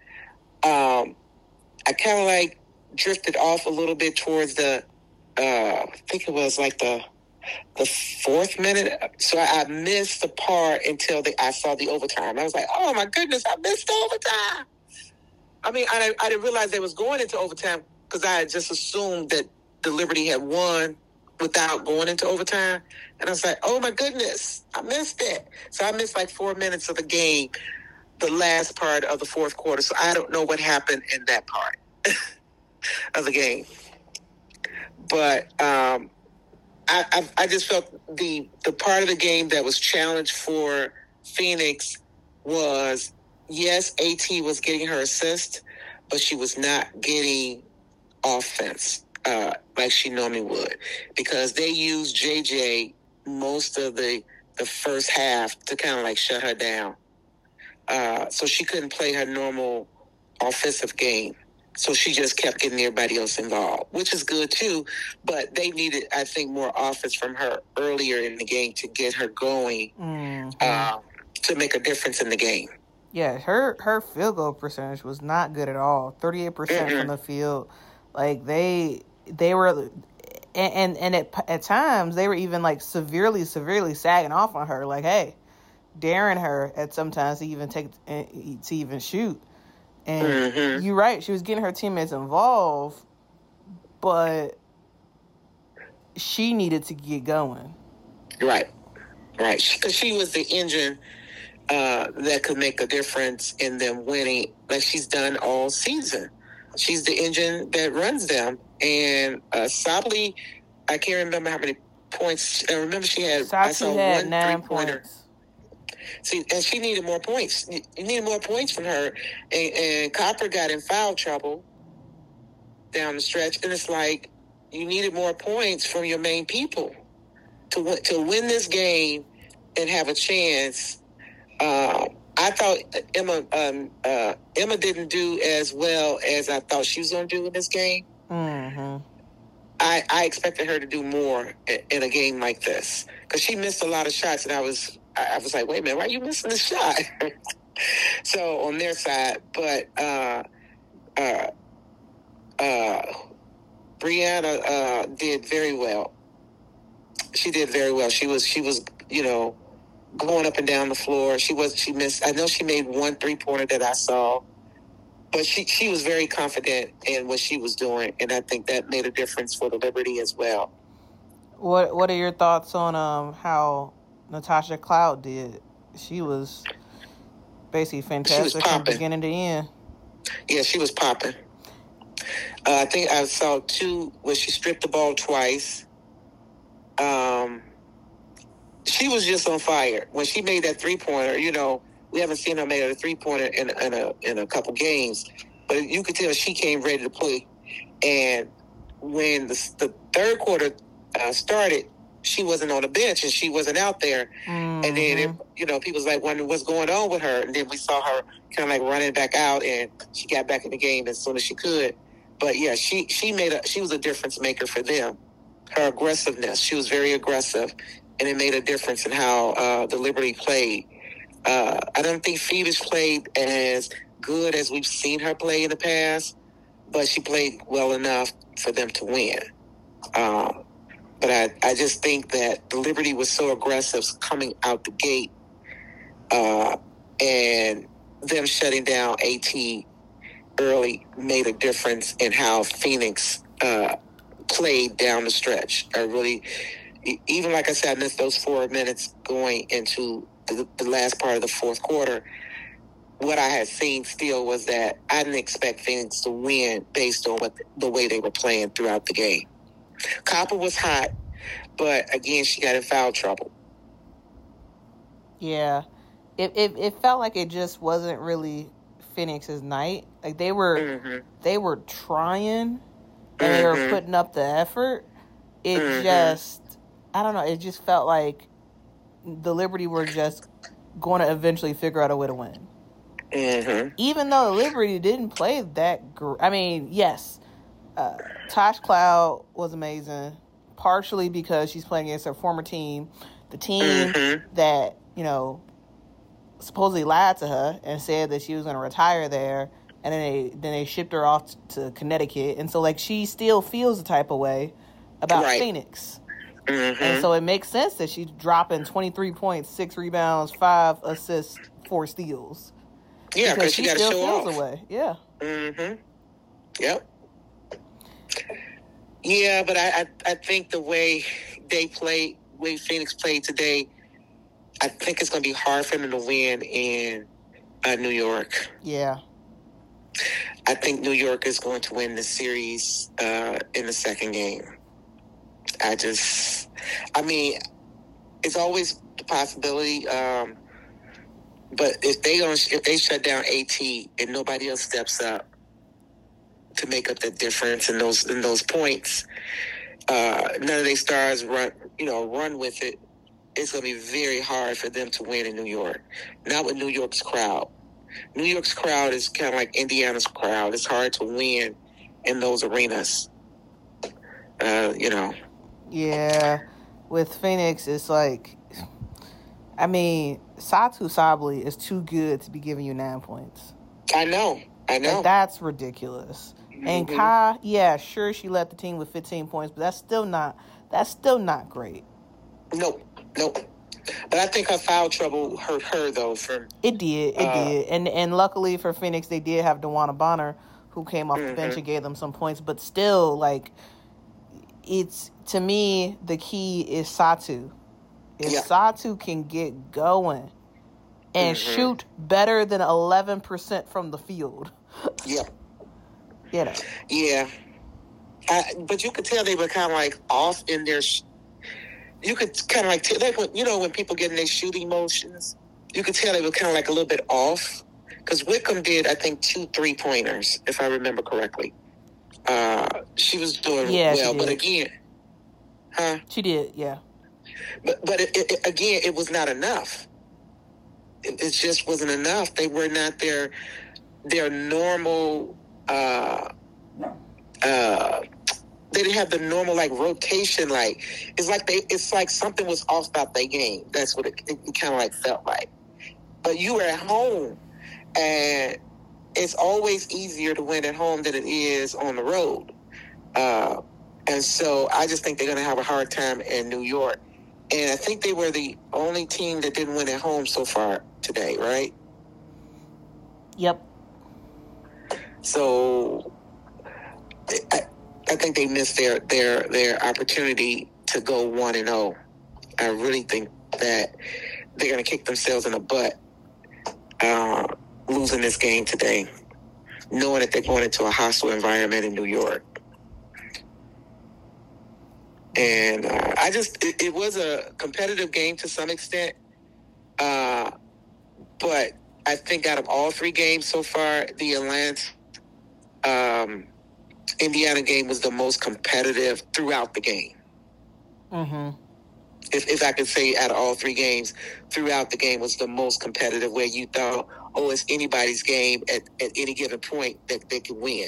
Um, I kind of like drifted off a little bit towards the, uh, I think it was like the the fourth minute. So I, I missed the part until the, I saw the overtime. I was like, oh my goodness, I missed the overtime. I mean, I, I didn't realize they was going into overtime because I had just assumed that the Liberty had won without going into overtime. And I was like, oh my goodness, I missed it. So I missed like four minutes of the game, the last part of the fourth quarter. So I don't know what happened in that part of the game. But um, I, I, I just felt the, the part of the game that was challenged for Phoenix was, yes, AT was getting her assist, but she was not getting offense. Uh, like she normally would, because they used J J most of the, the first half to kind of like shut her down. Uh, so she couldn't play her normal offensive game. So she just kept getting everybody else involved, which is good too. But they needed, I think, more offense from her earlier in the game to get her going, mm-hmm. uh, to make a difference in the game. Yeah, her, her field goal percentage was not good at all. thirty-eight percent mm-hmm. from the field. Like they... They were, and and, and at, at times, they were even, like, severely, severely sagging off on her. Like, hey, daring her at sometimes to even take, to even shoot. And mm-hmm. you're right, she was getting her teammates involved, but she needed to get going. Right, right. Because she, she was the engine uh, that could make a difference in them winning, like she's done all season. She's the engine that runs them. And uh, Sabally, I can't remember how many points. I remember she had. Satou I saw had one nine three-pointer. points. See, and she needed more points. You needed more points from her. And, and Copper got in foul trouble down the stretch. And it's like, you needed more points from your main people to win, to win this game and have a chance. Uh, I thought Emma um, uh, Emma didn't do as well as I thought she was going to do in this game. Mm-hmm. I, I expected her to do more in, in a game like this because she missed a lot of shots, and I was I was like, wait a minute, why are you missing the shot? So on their side, but uh, uh, uh, Brianna uh, did very well. She did very well. She was she was you know going up and down the floor. She was she missed. I know she made one three pointer that I saw. But she, she was very confident in what she was doing, and I think that made a difference for the Liberty as well. What What are your thoughts on um how Natasha Cloud did? She was basically fantastic from beginning to end. Yeah, she was popping. Uh, I think I saw two where she stripped the ball twice. Um, she was just on fire when she made that three pointer. You know. We haven't seen her make a three-pointer in, in, a, in a couple games. But you could tell she came ready to play. And when the, the third quarter uh, started, she wasn't on the bench and she wasn't out there. Mm-hmm. And then, it, you know, people was like wondering what's going on with her. And then we saw her kind of like running back out, and she got back in the game as soon as she could. But, yeah, she, she, made a, she was a difference maker for them. Her aggressiveness, she was very aggressive. And it made a difference in how uh, the Liberty played. Uh, I don't think Phoenix played as good as we've seen her play in the past, but she played well enough for them to win. Um, but I, I just think that the Liberty was so aggressive coming out the gate, uh, and them shutting down AT early made a difference in how Phoenix uh, played down the stretch. I really, even like I said, I missed those four minutes going into The, the last part of the fourth quarter. What I had seen still was that I didn't expect Phoenix to win based on what the, the way they were playing throughout the game. Copper was hot, but again, she got in foul trouble. Yeah, it it, it felt like it just wasn't really Phoenix's night. Like they were mm-hmm. they were trying and mm-hmm. they were putting up the effort. It mm-hmm. just I don't know. It just felt like the Liberty were just going to eventually figure out a way to win. Mm-hmm. Even though the Liberty didn't play that great. I mean, yes, uh, Tosh Cloud was amazing, partially because she's playing against her former team, the team mm-hmm. that, you know, supposedly lied to her and said that she was going to retire there, and then they then they shipped her off to Connecticut. And so, like, she still feels the type of way about right. Phoenix. Mm-hmm. And so it makes sense that she's dropping twenty-three points, six rebounds, five assists, four steals. Yeah, because she, she got to show off. Away. Yeah. Mm-hmm. Yep. Yeah, but I, I, I think the way they played, way Phoenix played today, I think it's going to be hard for them to win in uh, New York. Yeah. I think New York is going to win the series uh, in the second game. I just, I mean, it's always the possibility. Um, but if they don't, if they shut down AT and nobody else steps up to make up that difference in those in those points, uh, none of their stars run, you know, run with it. It's going to be very hard for them to win in New York. Not with New York's crowd. New York's crowd is kind of like Indiana's crowd. It's hard to win in those arenas. Uh, you know. Yeah, with Phoenix, it's like, I mean, Satou Sabally is too good to be giving you nine points. I know, I know. Like, that's ridiculous. Mm-hmm. And Kai, yeah, sure, she led the team with fifteen points, but that's still not, that's still not great. Nope, nope. But I think her foul trouble hurt her, though. From It did, it uh, did. And and luckily for Phoenix, they did have DeWanna Bonner, who came off mm-hmm. the bench and gave them some points, but still, like, it's, to me, the key is Satu. If Yeah. Satu can get going and Mm-hmm. shoot better than eleven percent from the field, Yeah. you know. Yeah. I, but you could tell they were kind of like off in their. Sh- you could kind of like tell, like when, you know, when people get in their shooting motions, you could tell they were kind of like a little bit off. Because Wickham did, I think, two three pointers, if I remember correctly. Uh, she was doing Yeah, she well, but did. again, huh? She did, yeah. But but it, it, again, it was not enough. It, it just wasn't enough. They were not their their normal. Uh, uh, they didn't have the normal like rotation. Like it's like they. It's like something was off about their game. That's what it, it, it kind of like felt like. But you were at home, and it's always easier to win at home than it is on the road. Uh, and so I just think they're going to have a hard time in New York. And I think they were the only team that didn't win at home so far today, right? Yep. So I, I think they missed their, their, their opportunity to go one and oh. I really think that they're going to kick themselves in the butt uh, losing this game today, knowing that they're going into a hostile environment in New York. And uh, I just, it, it was a competitive game to some extent. Uh, but I think out of all three games so far, the Atlanta, um, Indiana game was the most competitive throughout the game. Mm-hmm. If, if I could say out of all three games, throughout the game was the most competitive, where you thought, oh, it's anybody's game at, at any given point that they could win.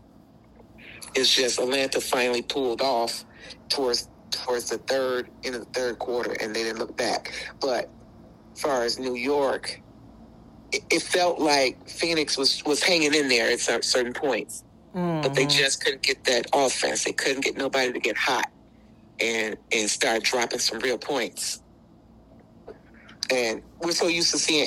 It's just Atlanta finally pulled off towards towards the third, in the third quarter, and they didn't look back. But as far as New York, it, it felt like Phoenix was, was hanging in there at certain points. Mm-hmm. But they just couldn't get that offense. They couldn't get nobody to get hot and and start dropping some real points. And we're so used to seeing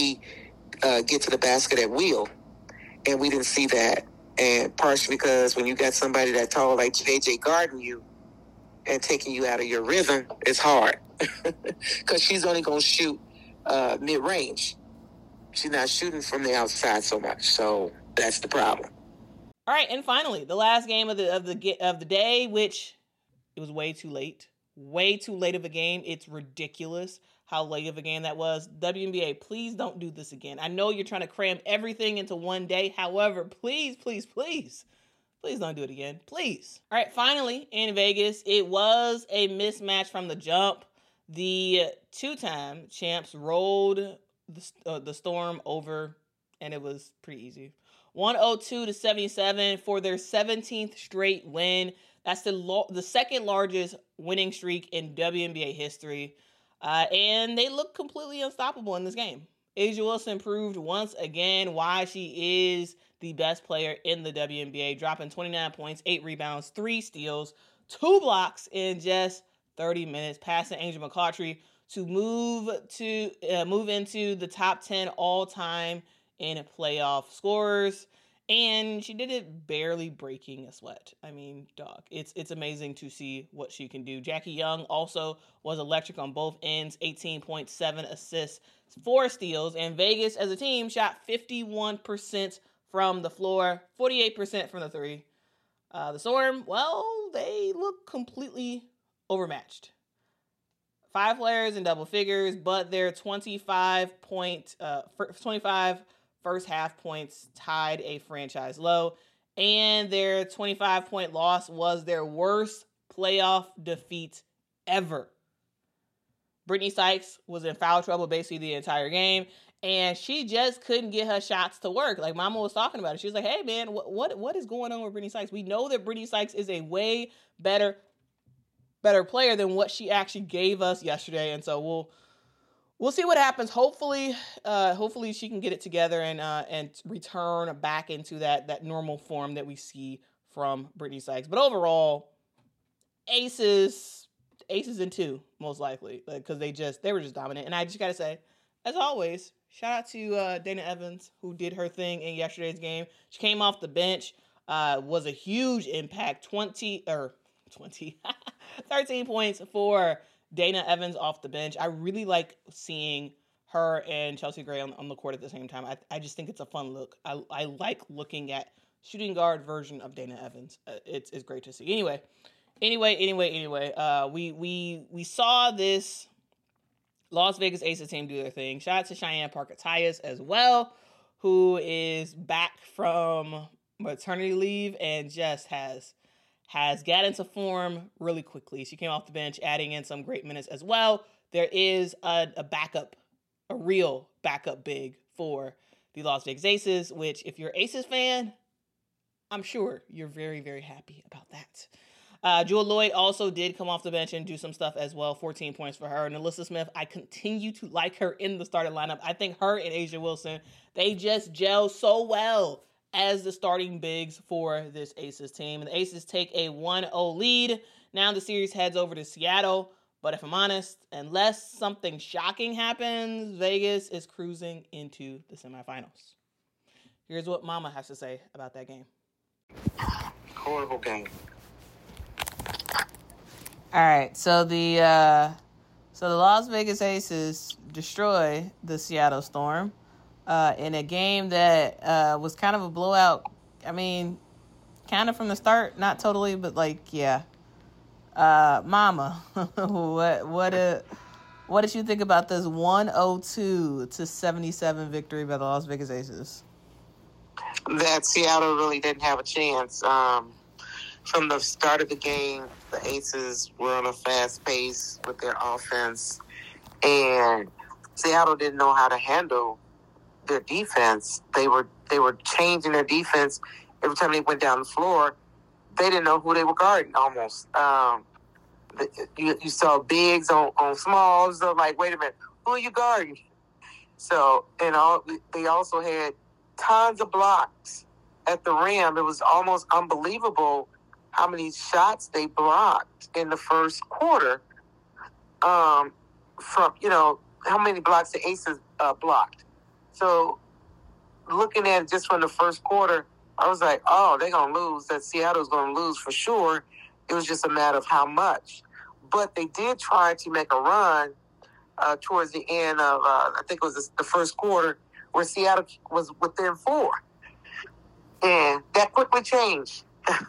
AT uh, get to the basket at will, and we didn't see that. And partially because when you got somebody that tall like J J guarding you and taking you out of your rhythm, it's hard. Because she's only going to shoot uh, mid-range. She's not shooting from the outside so much. So that's the problem. All right, and finally, the last game of the of the of the day, which it was way too late. Way too late of a game. It's ridiculous how late of a game that was. W N B A, please don't do this again. I know you're trying to cram everything into one day. However, please, please, please, please don't do it again. Please. All right, finally, in Vegas, it was a mismatch from the jump. The two-time champs rolled the, uh, the Storm over, and it was pretty easy. one oh two to seventy-seven for their seventeenth straight win. That's the lo- the second largest winning streak in W N B A history. Uh, and they look completely unstoppable in this game. A'ja Wilson proved once again why she is the best player in the W N B A, dropping twenty-nine points, eight rebounds, three steals, two blocks in just thirty minutes, passing Angel McCoughtry to move to uh, move into the top ten all-time in playoff scorers. And she did it barely breaking a sweat. I mean, dog, it's it's amazing to see what she can do. Jackie Young also was electric on both ends, eighteen point seven assists, four steals. And Vegas, as a team, shot fifty-one percent from the floor, forty-eight percent from the three. Uh, the Storm, well, they look completely overmatched. Five players in double figures, but their twenty-five point, uh, twenty-five first half points tied a franchise low, and their twenty-five point loss was their worst playoff defeat ever. Brittany Sykes was in foul trouble basically the entire game, and she just couldn't get her shots to work. Like Mama was talking about it. She was like, hey man, what what, what is going on with Brittany Sykes? We know that Brittany Sykes is a way better better player than what she actually gave us yesterday, and so we'll We'll see what happens. Hopefully, uh, hopefully she can get it together and uh, and return back into that that normal form that we see from Brittany Sykes. But overall, aces, aces in two most likely, because like, they just they were just dominant. And I just gotta say, as always, shout out to uh, Dana Evans, who did her thing in yesterday's game. She came off the bench, uh, was a huge impact. Twenty or twenty. thirteen points for Dana Evans off the bench. I really like seeing her and Chelsea Gray on, on the court at the same time. I, I just think it's a fun look. I, I like looking at shooting guard version of Dana Evans. Uh, it's it's great to see. Anyway, anyway, anyway, anyway. Uh, we we we saw this Las Vegas Aces team do their thing. Shout out to Cheyenne Parker-Tyus as well, who is back from maternity leave and just has has got into form really quickly. She came off the bench, adding in some great minutes as well. There is a, a backup, a real backup big for the Las Vegas Aces, which if you're an Aces fan, I'm sure you're very, very happy about that. Uh, Jewel Lloyd also did come off the bench and do some stuff as well. fourteen points for her. And Alyssa Smith, I continue to like her in the starting lineup. I think her and Asia Wilson, they just gel so well as the starting bigs for this Aces team. And the Aces take a one oh lead. Now the series heads over to Seattle. But if I'm honest, unless something shocking happens, Vegas is cruising into the semifinals. Here's what Mama has to say about that game. Horrible game. All right, so the uh, so the Las Vegas Aces destroy the Seattle Storm uh, in a game that uh, was kind of a blowout. I mean, kind of from the start, not totally, but like, yeah. Uh, Mama, what what uh, what did you think about this one oh two to seventy-seven victory by the Las Vegas Aces? That Seattle really didn't have a chance. Um, from the start of the game, the Aces were on a fast pace with their offense, and Seattle didn't know how to handle their defense. They were they were changing their defense every time they went down the floor. They didn't know who they were guarding almost. Um, the, you, you saw bigs on, on smalls. They're like, wait a minute, who are you guarding? So, and all, they also had tons of blocks at the rim. It was almost unbelievable how many shots they blocked in the first quarter. Um, from, you know, how many blocks the Aces uh, blocked. So, looking at it just from the first quarter, I was like, oh, they're going to lose. That Seattle's going to lose for sure. It was just a matter of how much. But they did try to make a run uh, towards the end of, uh, I think it was the first quarter, where Seattle was within four. And that quickly changed.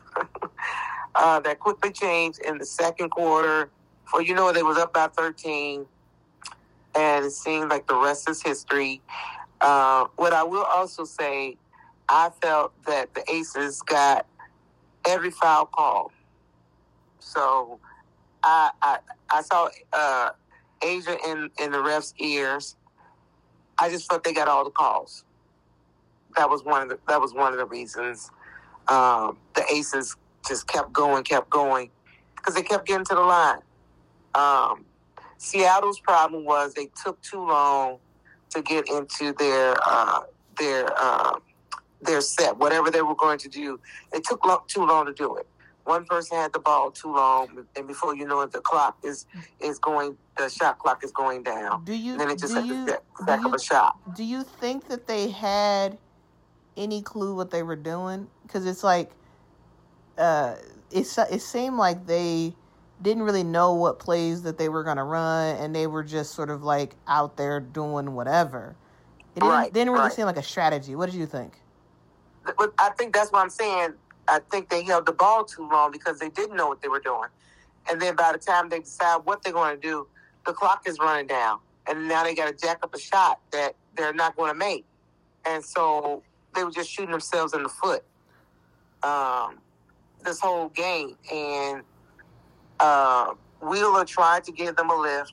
uh, that quickly changed in the second quarter. For, you know, they was up by thirteen. And it seemed like the rest is history. Uh, what I will also say, I felt that the Aces got every foul call. So I I, I saw uh, Asia in, in the refs' ears. I just thought they got all the calls. That was one of the that was one of the reasons um, the Aces just kept going, kept going, because they kept getting to the line. Um, Seattle's problem was they took too long to get into their uh, their uh, their set, whatever they were going to do. They took lo- too long to do it. One person had the ball too long, and before you know it, the clock is is going. The shot clock is going down. Do you? And then it just do like you, a back of a shot. Do you think that they had any clue what they were doing? Because it's like, uh, it's it seemed like they didn't really know what plays that they were going to run, and they were just sort of like out there doing whatever. It didn't, Right, didn't really right. seem like a strategy. What did you think? But I think that's what I'm saying. I think they held the ball too long because they didn't know what they were doing. And then by the time they decide what they're going to do, the clock is running down. And now they got to jack up a shot that they're not going to make. And so they were just shooting themselves in the foot um, this whole game. And uh, Wheeler tried to give them a lift.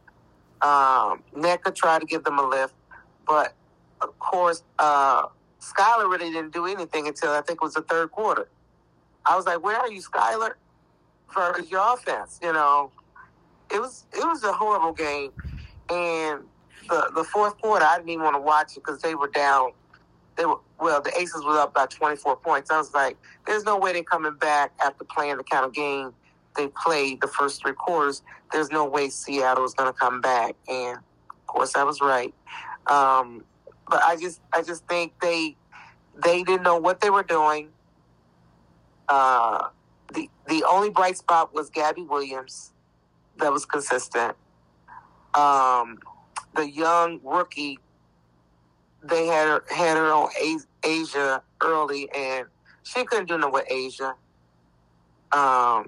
Um, Nneka tried to give them a lift. But, of course, uh, Skylar really didn't do anything until I think it was the third quarter. I was like, where are you, Skylar, for your offense? You know, it was it was a horrible game. And the the fourth quarter, I didn't even want to watch it because they were down. They were well, the Aces were up by twenty-four points. I was like, there's no way they're coming back after playing the kind of game they played the first three quarters. There's no way Seattle is going to come back. And, of course, I was right. Um, but I just I just think they they didn't know what they were doing. Uh, the the the only bright spot was Gabby Williams. That was consistent. Um, the young rookie, they had her, had her on Asia early, and she couldn't do nothing with Asia. Um,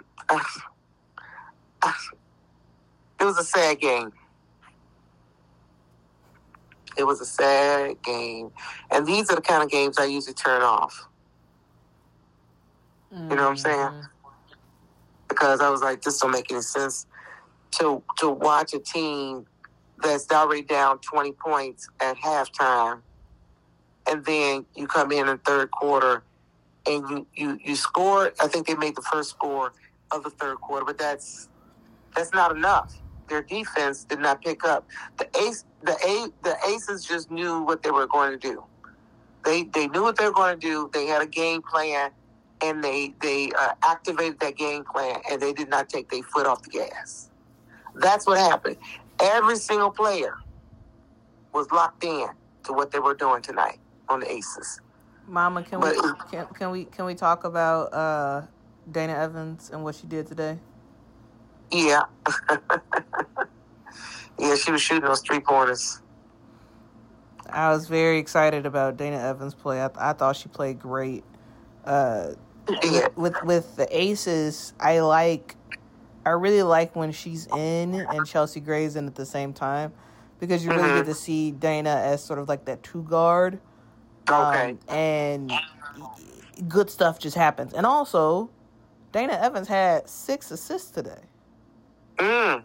it was a sad game. It was a sad game. And these are the kind of games I usually turn off. Mm-hmm. You know what I'm saying? Because I was like, this don't make any sense to to watch a team that's already down twenty points at halftime, and then you come in in third quarter and you, you, you score. I think they made the first score of the third quarter, but that's that's not enough. Their defense did not pick up. The ace, the a, the Aces just knew what they were going to do. They they knew what they were going to do. They had a game plan, and they they uh, activated that game plan, and they did not take their foot off the gas. That's what happened. Every single player was locked in to what they were doing tonight on the Aces. Mama, can but, we can, can we can we talk about uh, Dana Evans and what she did today? Yeah. Yeah, she was shooting those three-pointers. I was very excited about Dana Evans' play. I, I thought she played great. Uh, yeah. with, with with the Aces, I like, I really like when she's in and Chelsea Gray's in at the same time, because you really mm-hmm. get to see Dana as sort of like that two guard. Okay. Um, and good stuff just happens. And also, Dana Evans had six assists today. Mm.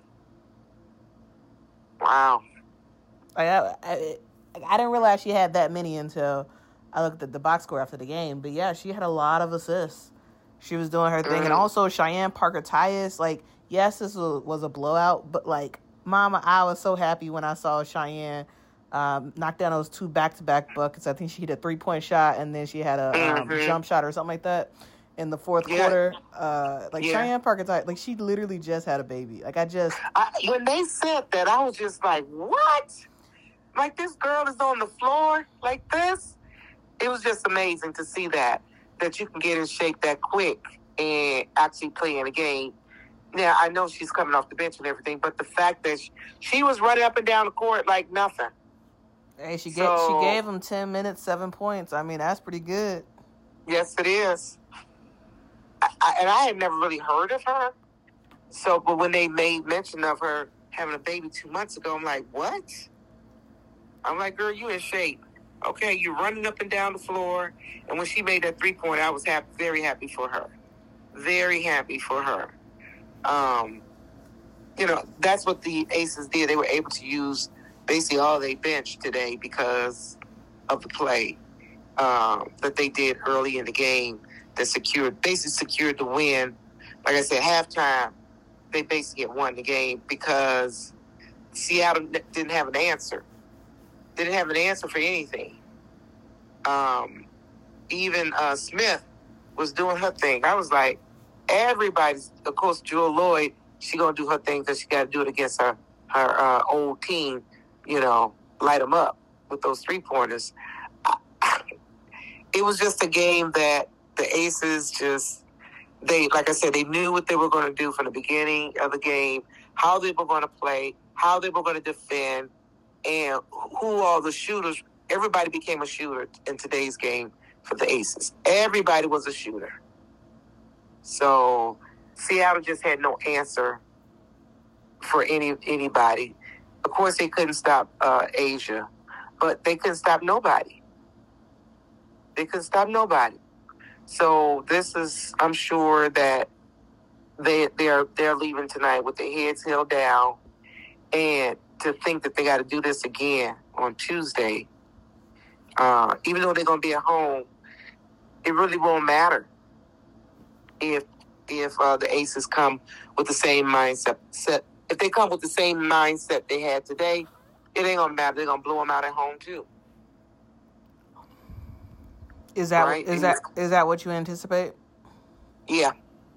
Wow. I, I, I didn't realize she had that many until I looked at the box score after the game. But yeah, she had a lot of assists. She was doing her thing. Mm. And also Cheyenne Parker-Tyus, like, yes, this was, was a blowout, but like, Mama, I was so happy when I saw Cheyenne um, knock down those two back-to-back buckets. I think she hit a three-point shot, and then she had a mm-hmm. um, jump shot or something like that in the fourth yeah. quarter. Uh, like, yeah. Cheyenne Parker-Tyus, like, she literally just had a baby. Like, I just... I, when they said that, I was just like, what? Like, this girl is on the floor like this? It was just amazing to see that, that you can get in shape that quick and actually play in a game. Now, I know she's coming off the bench and everything, but the fact that she, she was running up and down the court like nothing. Hey, she, so, gave, she gave them ten minutes, seven points. I mean, that's pretty good. Yes, it is. I, I, and I had never really heard of her. So, but when they made mention of her having a baby two months ago, I'm like, what? I'm like, girl, you in shape. Okay, you're running up and down the floor. And when she made that three-pointer, I was happy, very happy for her. Very happy for her. Um, you know, that's what the Aces did. They were able to use basically all they bench today because of the play um, that they did early in the game that secured, basically secured the win. Like I said, halftime, they basically won the game because Seattle didn't have an answer. They didn't have an answer for anything. Um, even uh, Smith was doing her thing. I was like, everybody's, of course, Jewel Lloyd, she going to do her thing because she got to do it against her, her uh, old team, you know, light them up with those three-pointers. It was just a game that the Aces just, they, like I said, they knew what they were going to do from the beginning of the game, how they were going to play, how they were going to defend, and who all the shooters, everybody became a shooter in today's game for the Aces. Everybody was a shooter. So Seattle just had no answer for any anybody. Of course, they couldn't stop uh, Asia, but they couldn't stop nobody. They couldn't stop nobody. So this is, I'm sure that they they're they're leaving tonight with their heads held down, and to think that they got to do this again on Tuesday, uh, even though they're going to be at home, it really won't matter if if uh, the Aces come with the same mindset. Set, if they come with the same mindset they had today, it ain't going to matter. They're going to blow them out at home too. Is that right? is that is that what you anticipate? Yeah,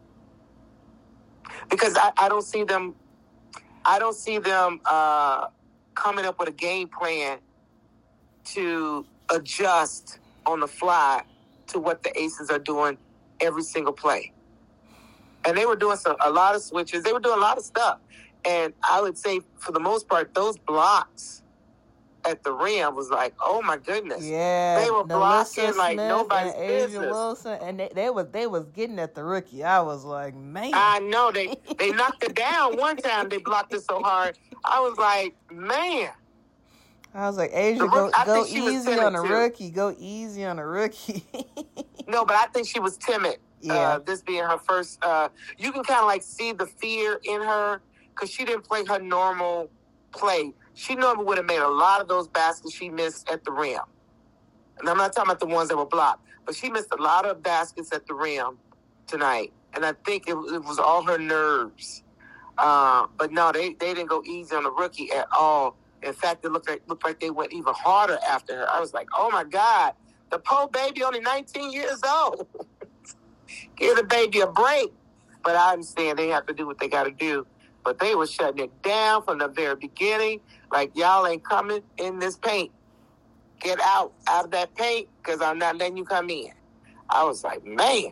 because I, I don't see them. I don't see them uh, coming up with a game plan to adjust on the fly to what the Aces are doing every single play. And they were doing some a lot of switches. They were doing a lot of stuff. And I would say, for the most part, those blocks at the rim was like, oh my goodness. Yeah, they were blocking Melissa like Smith nobody's and Asia business. Wilson, and they, they was they was getting at the rookie. I was like, man. I know they they knocked it down one time. They blocked it so hard. I was like, man. I was like, Asia, The go, rook- I go think she was easy timid, on the too. rookie. Go easy on the rookie. No, but I think she was timid. Yeah. Uh, this being her first, uh, you can kind of like see the fear in her because she didn't play her normal play. She normally would have made a lot of those baskets she missed at the rim. And I'm not talking about the ones that were blocked, but she missed a lot of baskets at the rim tonight. And I think it, it was all her nerves. Uh, but no, they, they didn't go easy on the rookie at all. In fact, it looked like looked like they went even harder after her. I was like, oh, my God. The poor baby only nineteen years old. Give the baby a break. But I understand they have to do what they got to do. But they were shutting it down from the very beginning. Like, y'all ain't coming in this paint. Get out, out of that paint, because I'm not letting you come in. I was like, man.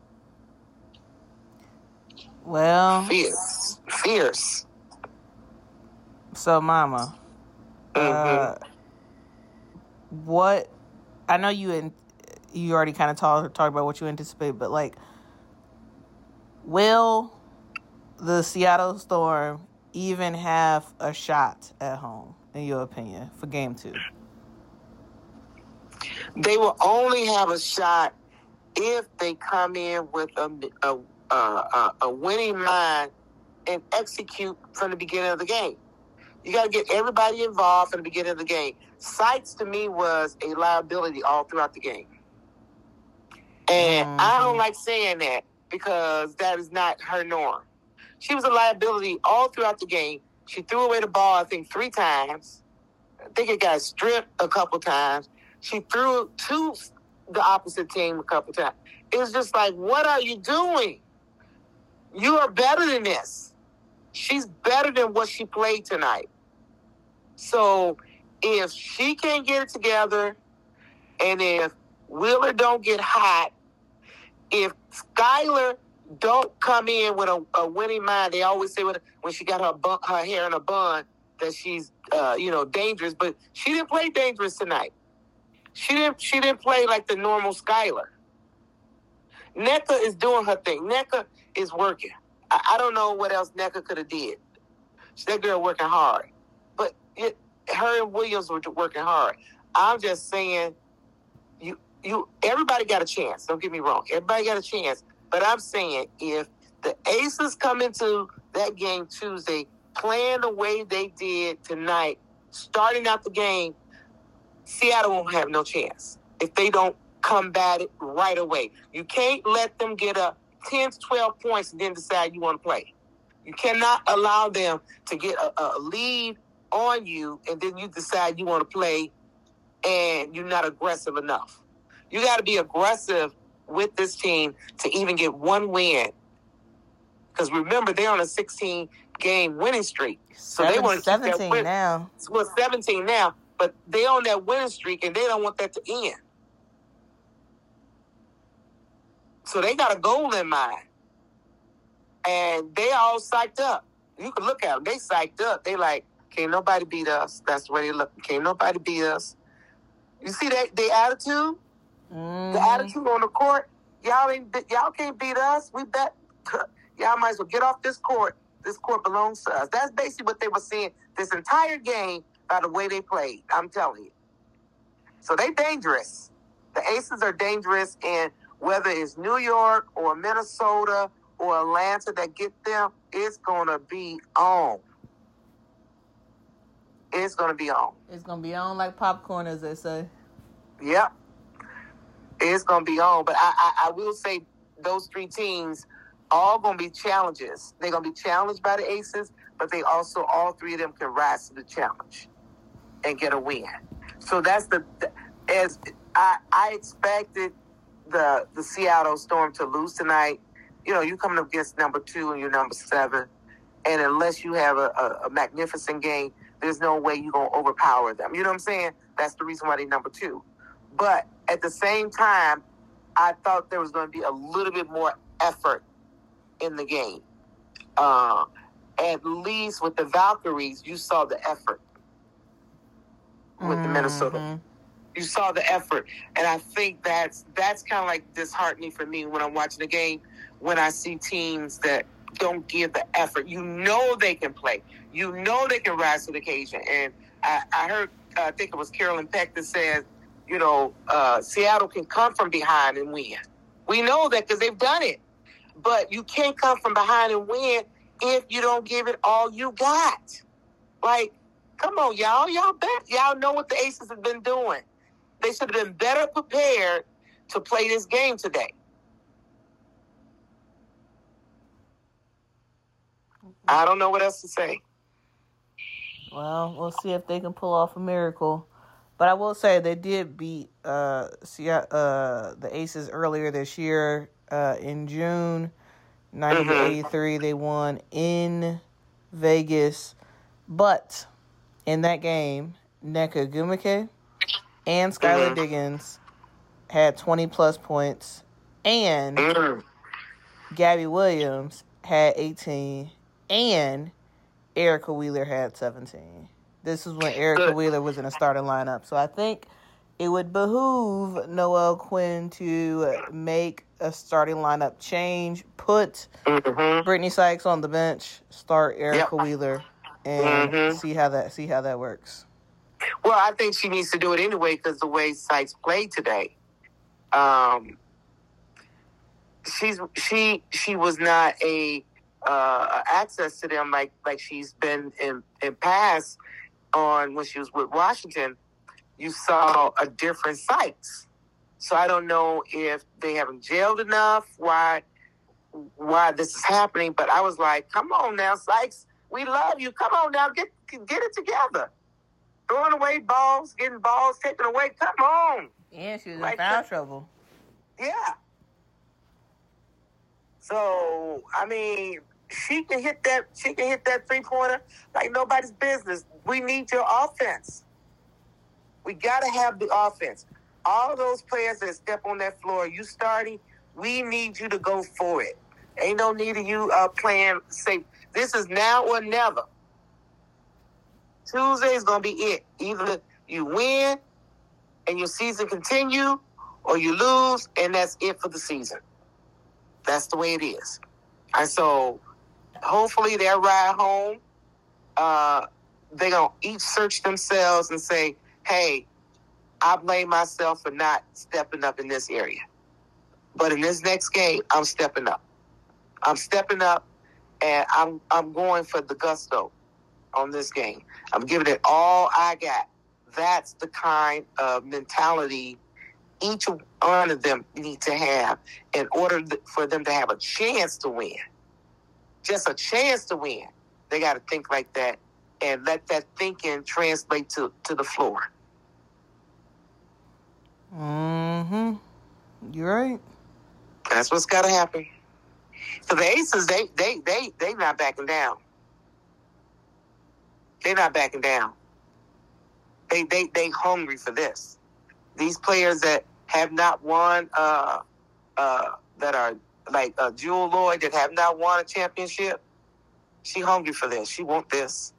Well, Fierce. Fierce. so Mama, uh, what? I know you and you already kind of talked talked about what you anticipate, but like, will the Seattle Storm even have a shot at home, in your opinion, for game two? They will only have a shot if they come in with a, a, a, a, a winning mind and execute from the beginning of the game. You got to get everybody involved from the beginning of the game. Sykes, to me, was a liability all throughout the game. And Mm-hmm. I don't like saying that because that is not her norm. She was a liability all throughout the game. She threw away the ball, I think, three times. I think it got stripped a couple times. She threw it to the opposite team a couple times. It was just like, what are you doing? You are better than this. She's better than what she played tonight. So if she can't get it together, and if Wheeler don't get hot, if Skylar don't come in with a, a winning mind, they always say when, when she got her bun, her hair in a bun that she's uh, you know dangerous, but she didn't play dangerous tonight. She didn't. She didn't play like the normal Skylar. Nneka is doing her thing. Nneka is working. I, I don't know what else Nneka could have did. That girl working hard, but it, her and Williams were working hard. I'm just saying, you you everybody got a chance. Don't get me wrong. Everybody got a chance. But I'm saying if the Aces come into that game Tuesday playing the way they did tonight, starting out the game, Seattle won't have no chance if they don't combat it right away. You can't let them get up ten to twelve points and then decide you want to play. You cannot allow them to get a, a lead on you and then you decide you want to play and you're not aggressive enough. You got to be aggressive with this team to even get one win. Because remember, they're on a sixteen-game winning streak. So Seven, they want to keep that seventeen win. now. Well, seventeen now. But they on that winning streak, and they don't want that to end. So they got a goal in mind. And they all psyched up. You can look at them. They psyched up. They like, can't nobody beat us. That's the way they look. Can't nobody beat us. You see that their attitude? Mm-hmm. The attitude on the court? Y'all ain't, y'all can't beat us. We bet. Y'all might as well get off this court. This court belongs to us. That's basically what they were saying this entire game by the way they played. I'm telling you. So they dangerous. The Aces are dangerous, and whether it's New York or Minnesota or Atlanta that get them, it's going to be on. It's going to be on. It's gonna be on like popcorn, as they say. Yep. It's going to be on. But I, I, I will say those three teams all going to be challenges. They're going to be challenged by the Aces, but they also, all three of them can rise to the challenge and get a win. So that's the, as I, I expected the the Seattle Storm to lose tonight. You know, you coming up against number two and you're number seven. And unless you have a, a, a magnificent game, there's no way you're going to overpower them. You know what I'm saying? That's the reason why they're number two. But at the same time, I thought there was going to be a little bit more effort in in the game. Uh, at least with the Valkyries, you saw the effort with Mm-hmm. the Minnesota. You saw the effort, and I think that's that's kind of like disheartening for me when I'm watching the game, when I see teams that don't give the effort. You know they can play. You know they can rise to the occasion. And I, I heard, uh, I think it was Carolyn Peck that said, you know, uh, Seattle can come from behind and win. We know that because they've done it. But you can't come from behind and win if you don't give it all you got. Like, come on, y'all. Y'all bet. Y'all know what the Aces have been doing. They should have been better prepared to play this game today. I don't know what else to say. Well, we'll see if they can pull off a miracle. But I will say they did beat uh, uh, the Aces earlier this year uh, in June. ninety to eighty-three, they won in Vegas. But in that game, Nneka Ogwumike and Skylar Mm-hmm. Diggins had twenty-plus points. And Mm. Gabby Williams had eighteen. And Erica Wheeler had seventeen. This is when Erica Good. Wheeler was in a starting lineup. So I think it would behoove Noelle Quinn to make a starting lineup change, put Mm-hmm. Brittany Sykes on the bench, start Erica Yep. Wheeler, and Mhm. see how that see how that works. Well, I think she needs to do it anyway because the way Sykes played today, um, she's she she was not a uh, access to them like like she's been in in past on when she was with Washington. You saw a different Sykes, so I don't know if they haven't gelled enough. Why why this is happening? But I was like, come on now, Sykes, we love you. Come on now, get get it together. Throwing away balls, getting balls taken away. Come on. Yeah, she was in Like foul the- trouble. Yeah. So, I mean, she can hit that she can hit that three pointer like nobody's business. We need your offense. We gotta have the offense. All those players that step on that floor, you starting, we need you to go for it. Ain't no need of you uh, playing safe. This is now or never. Tuesday is going to be it. Either you win and your season continue, or you lose and that's it for the season. That's the way it is. And so hopefully they'll ride home. Uh, they're going to each search themselves and say, hey, I blame myself for not stepping up in this area. But in this next game, I'm stepping up. I'm stepping up, and I'm I'm going for the gusto on this game. I'm giving it all I got. That's the kind of mentality each one of them need to have in order for them to have a chance to win. Just a chance to win. They got to think like that and let that thinking translate to, to the floor. Mm-hmm. You're right. That's what's got to happen. So the Aces, they they they they not backing down. They're not backing down. They they they hungry for this. These players that have not won, uh, uh, that are like uh, Jewel Lloyd that have not won a championship. She hungry for this. She want this.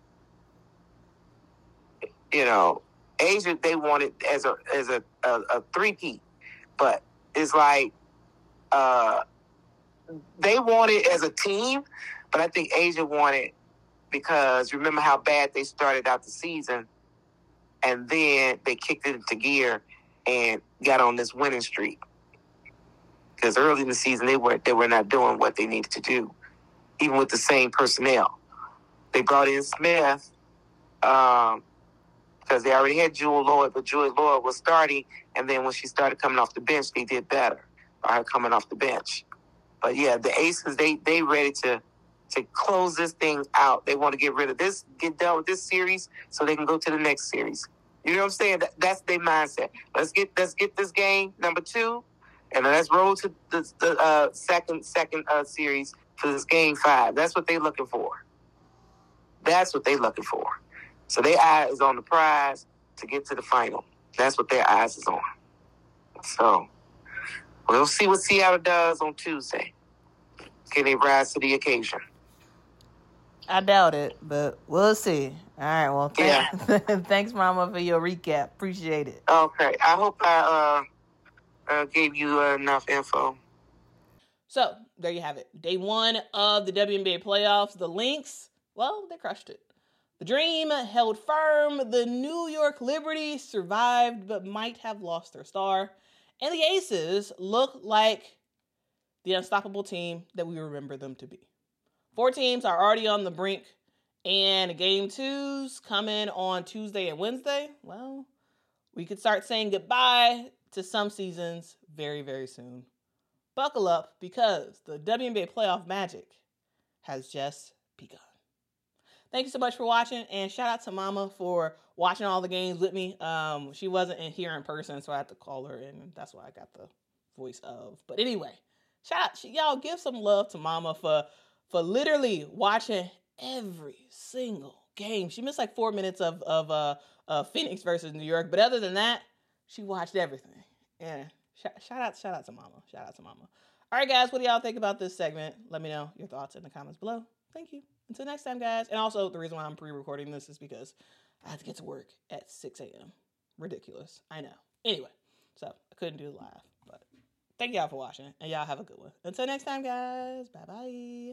You know, Asia, they want it as a as a a, a three-peat, but it's like uh, they want it as a team, but I think Asia want it because remember how bad they started out the season, and then they kicked it into gear and got on this winning streak. Because early in the season they were they were not doing what they needed to do, even with the same personnel. They brought in Smith. Um, because they already had Jewel Lloyd, but Jewel Lloyd was starting, and then when she started coming off the bench, they did better by her coming off the bench. But yeah, the Aces, they they ready to to close this thing out. They want to get rid of this, get done with this series, so they can go to the next series. You know what I'm saying? That, that's their mindset. Let's get let's get this game number two, and then let's roll to the, the uh, second second uh, series for this game five. That's what they're looking for. That's what they're looking for. So their eye is on the prize to get to the final. That's what their eyes is on. So we'll see what Seattle does on Tuesday. can they rise to the occasion? I doubt it, but we'll see. All right, well, th- Yeah. thanks, Mama, for your recap. Appreciate it. Okay, I hope I uh, uh, gave you enough info. So, there you have it. Day one of the W N B A playoffs. The Lynx, well, they crushed it. The Dream held firm. The New York Liberty survived, but might have lost their star. And the Aces look like the unstoppable team that we remember them to be. Four teams are already on the brink, and game two's coming on Tuesday and Wednesday. Well, we could start saying goodbye to some seasons very, very soon. Buckle up, because the W N B A playoff magic has just begun. Thank you so much for watching, and shout out to Mama for watching all the games with me. Um, she wasn't in here in person, so I had to call her, and that's why I got the voice of. But anyway, shout out, y'all give some love to Mama for for literally watching every single game. She missed like four minutes of of uh, uh Phoenix versus New York, but other than that, she watched everything. Yeah, shout, shout out, shout out to Mama. Shout out to Mama. All right, guys, what do y'all think about this segment? Let me know your thoughts in the comments below. Thank you. Until next time, guys. And also, the reason why I'm pre-recording this is because I have to get to work at six a.m. Ridiculous. I know. Anyway, so I couldn't do it live. But thank y'all for watching, and y'all have a good one. Until next time, guys. Bye-bye.